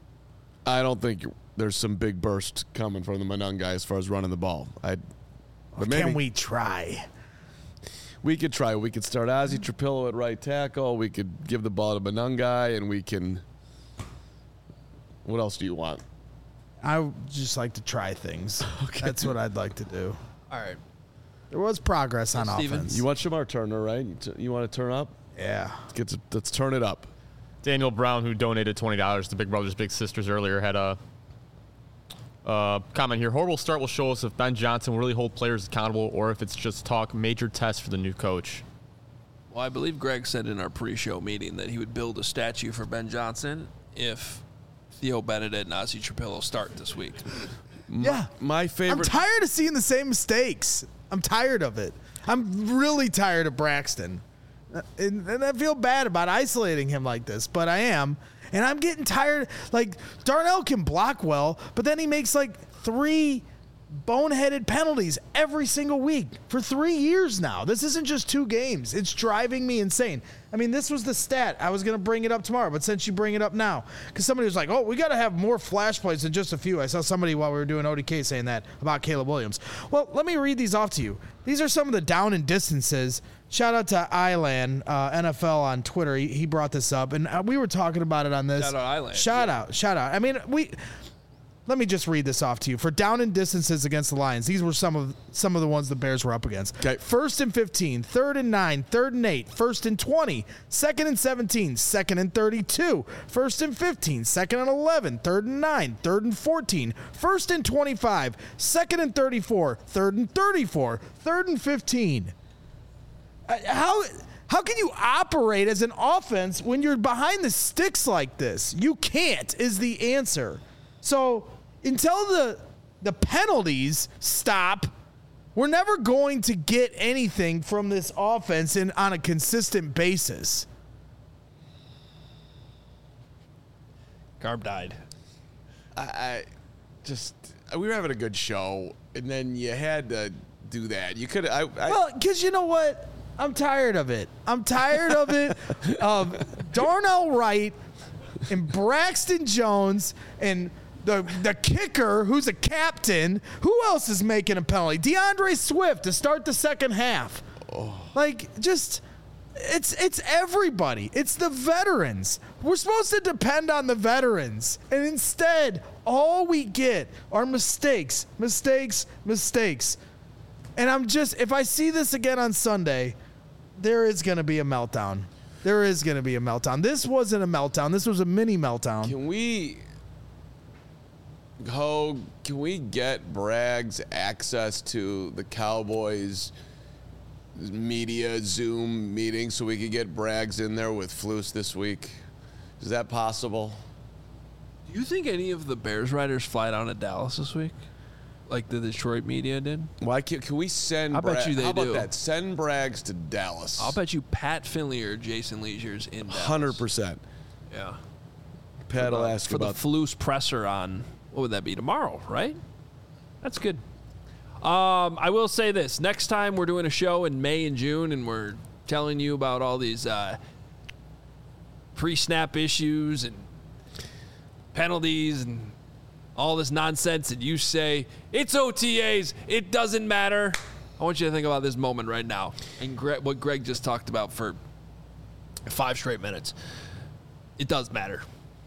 I don't think there's some big burst coming from the Monungai as far as running the ball. I But maybe Can we try? we could try. We could start Ozzie Trapillo at right tackle. We could give the ball to Benungai, and we can. What else do you want? I would just like to try things. Okay. That's what I'd like to do. All right. There was progress on Steven. offense. You want Shamar Turner, right? You, t- you want to turn up? Yeah. Let's, get to, let's turn it up. Daniel Brown, who donated twenty dollars to Big Brothers Big Sisters earlier, had a uh, comment here. Horrible start will show us if Ben Johnson will really hold players accountable or if it's just talk major test for the new coach. Well, I believe Greg said in our pre-show meeting that he would build a statue for Ben Johnson if Theo Benedict and Ozzie Trapillo start this week. Yeah. My I'm favorite. tired of seeing the same mistakes. I'm tired of it. I'm really tired of Braxton. And, and I feel bad about isolating him like this, but I am. And I'm getting tired. Like, Darnell can block well, but then he makes like three boneheaded penalties every single week for three years now. This isn't just two games. It's driving me insane. I mean, this was the stat. I was going to bring it up tomorrow, but since you bring it up now, because somebody was like, oh, we got to have more flash plays than just a few. I saw somebody while we were doing O D K saying that about Caleb Williams. Well, let me read these off to you. These are some of the down and distances. Shout out to Ilan, uh, N F L on Twitter. He, he brought this up, and uh, we were talking about it on this. Shout out Ilan. Shout Yeah. out. Shout out. I mean, we... Let me just read this off to you. For down and distances against the Lions, these were some of some of the ones the Bears were up against. Okay. First and fifteen, third and nine, third and eight, first and twenty, second and seventeen, second and thirty-two, first and fifteen, second and eleven, third and nine, third and fourteen, first and twenty-five, second and thirty-four, third and thirty-four, third and fifteen. Uh, How how can you operate as an offense when you're behind the sticks like this? You can't is the answer. So until the the penalties stop, we're never going to get anything from this offense in, on a consistent basis. Garb died. I, I just we were having a good show, and then you had to do that. You could. I, I Well, because you know what? I'm tired of it. I'm tired of it. Of Darnell Wright and Braxton Jones and the the kicker, who's a captain. Who else is making a penalty? DeAndre Swift to start the second half. Oh. Like, just it's it's everybody. It's the veterans. We're supposed to depend on the veterans, and instead, all we get are mistakes, mistakes, mistakes. And I'm just, if I see this again on Sunday, there is going to be a meltdown. There is going to be a meltdown. This wasn't a meltdown. This was a mini meltdown. Can we go? Can we get Braggs access to the Cowboys media Zoom meeting so we could get Braggs in there with Flus this week? Is that possible? Do you think any of the Bears writers fly down to Dallas this week, like the Detroit media did? Why can't, can we send? I bet Bra- you they How about do. that? Send Braggs to Dallas. I'll bet you Pat Finley or Jason Leisure's in Dallas. Hundred percent. Yeah. Pat will ask for about the Flus presser on, what would that be, tomorrow, right? That's good. Um, I will say this. Next time we're doing a show in May and June and we're telling you about all these uh, pre-snap issues and penalties and all this nonsense, and you say, it's O T As, it doesn't matter. I want you to think about this moment right now and Gre- what Greg just talked about for five straight minutes. It does matter.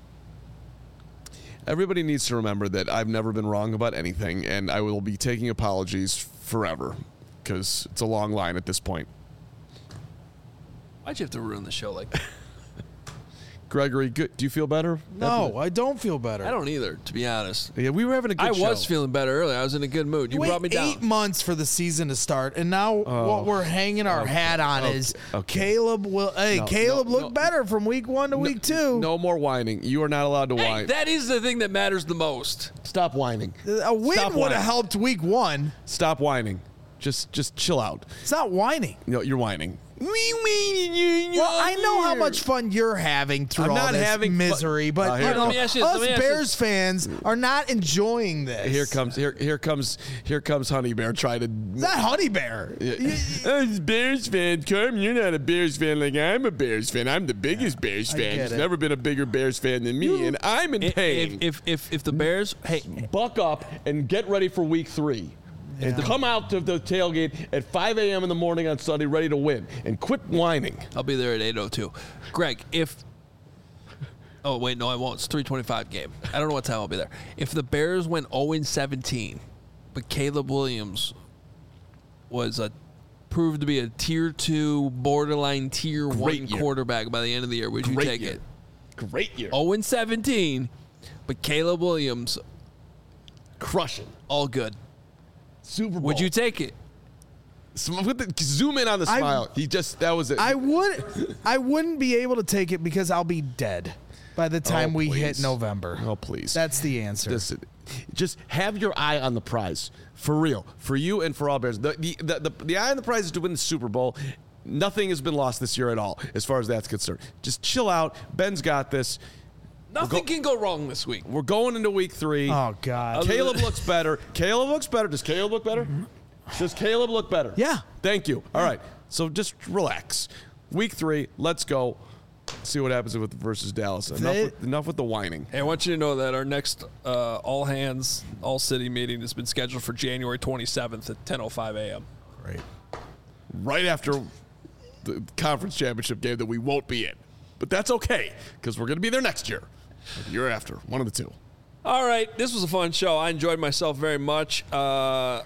Everybody needs to remember that I've never been wrong about anything, and I will be taking apologies forever because it's a long line at this point. Why'd you have to ruin the show like that? Gregory, good. Do you feel better? No, I don't feel better. I don't either, to be honest. Yeah, we were having a good I show. was feeling better earlier. I was in a good mood. You Wait brought me down. eight months for the season to start, and now Oh. what we're hanging our Okay. hat on Okay. is Okay. Caleb will. Hey, No, Caleb no, looked no. better from week one to week two. No more whining. You are not allowed to Hey, whine. that is the thing that matters the most. Stop whining. A win Stop would whining. have helped week one. Stop whining. Just, just chill out. It's not whining. No, you're whining. Well, I know how much fun you're having through I'm all not this having fu- misery, but Uh, you here- know, Let me ask you this, us let me ask you Bears this. fans are not enjoying this. Here comes, here, here comes, here comes Honey Bear trying to. It's not Honey Bear. Uh, Bears fan, Carm, you're not a Bears fan like I'm a Bears fan. I'm the biggest Bears I fan. get There's it. never been a bigger Bears fan than me, and I'm in If, pain. if, if, if the Bears, hey, Buck up and get ready for week three. and come out to the tailgate at five a.m. in the morning on Sunday ready to win. And quit whining. I'll be there at eight oh two. Greg, if oh wait, no, I won't. It's three twenty-five game. I don't know what time I'll be there. If the Bears went oh and seventeen, but Caleb Williams was a proved to be a tier two, borderline tier Great one year. quarterback by the end of the year, would you Great take year. it? Great year. oh and seventeen, but Caleb Williams, Crushing. all good. Super Bowl. Would you take it? Sm- with the- zoom in on the I- smile. He just, that was it. I would, I wouldn't be able to take it because I'll be dead by the time we hit please. November. Oh, please. That's the answer. This, just have your eye on the prize. For real. For you and for all Bears. The, the, the, the, the eye on the prize is to win the Super Bowl. Nothing has been lost this year at all, as far as that's concerned. Just chill out. Ben's got this. Nothing go- can go wrong this week. We're going into week three. Oh God. Caleb looks better. Caleb looks better. Does Caleb look better? Does Caleb look better? Yeah. Thank you. All right. So just relax. Week three. Let's go. See what happens with versus Dallas. Enough, They- with, enough with the whining. Hey, I want you to know that our next uh, all hands, all city meeting has been scheduled for January twenty-seventh at ten oh five a.m. Great. Right after the conference championship game that we won't be in. But that's okay, because we're going to be there next year. Or the year after. One of the two. All right, this was a fun show. I enjoyed myself very much. Uh,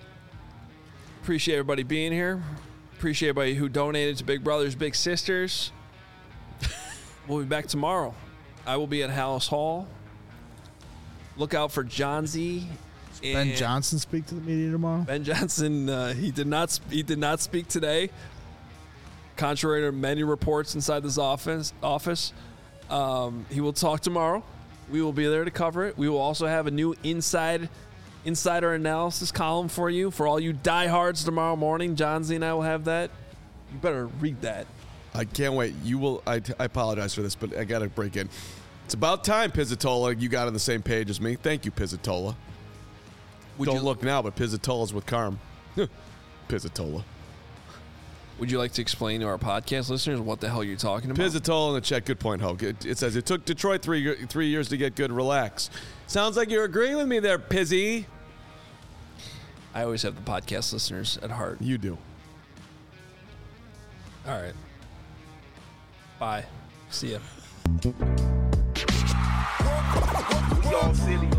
appreciate everybody being here. Appreciate everybody who donated to Big Brothers Big Sisters. We'll be back tomorrow. I will be at Hallis Hall. Look out for John Z. Ben and Johnson speak to the media tomorrow. Ben Johnson. Uh, he did not. Sp- he did not speak today. Contrary to many reports inside this office, office, um, he will talk tomorrow. We will be there to cover it. We will also have a new inside insider analysis column for you for all you diehards tomorrow morning. John Z and I will have that. You better read that. I can't wait. You will. I, I apologize for this, but I got to break in. It's about time, Pizzatola. You got on the same page as me. Thank you, Pizzatola. Would Don't you look now, but Pizzatola's with Carm. Pizzatola. Would you like to explain to our podcast listeners what the hell you're talking about? Pizzatola in the chat. Good point, Hoke. It, it says it took Detroit three three years to get good. Relax. Sounds like you're agreeing with me there, Pizzy. I always have the podcast listeners at heart. You do. All right. Bye. See ya. We all silly.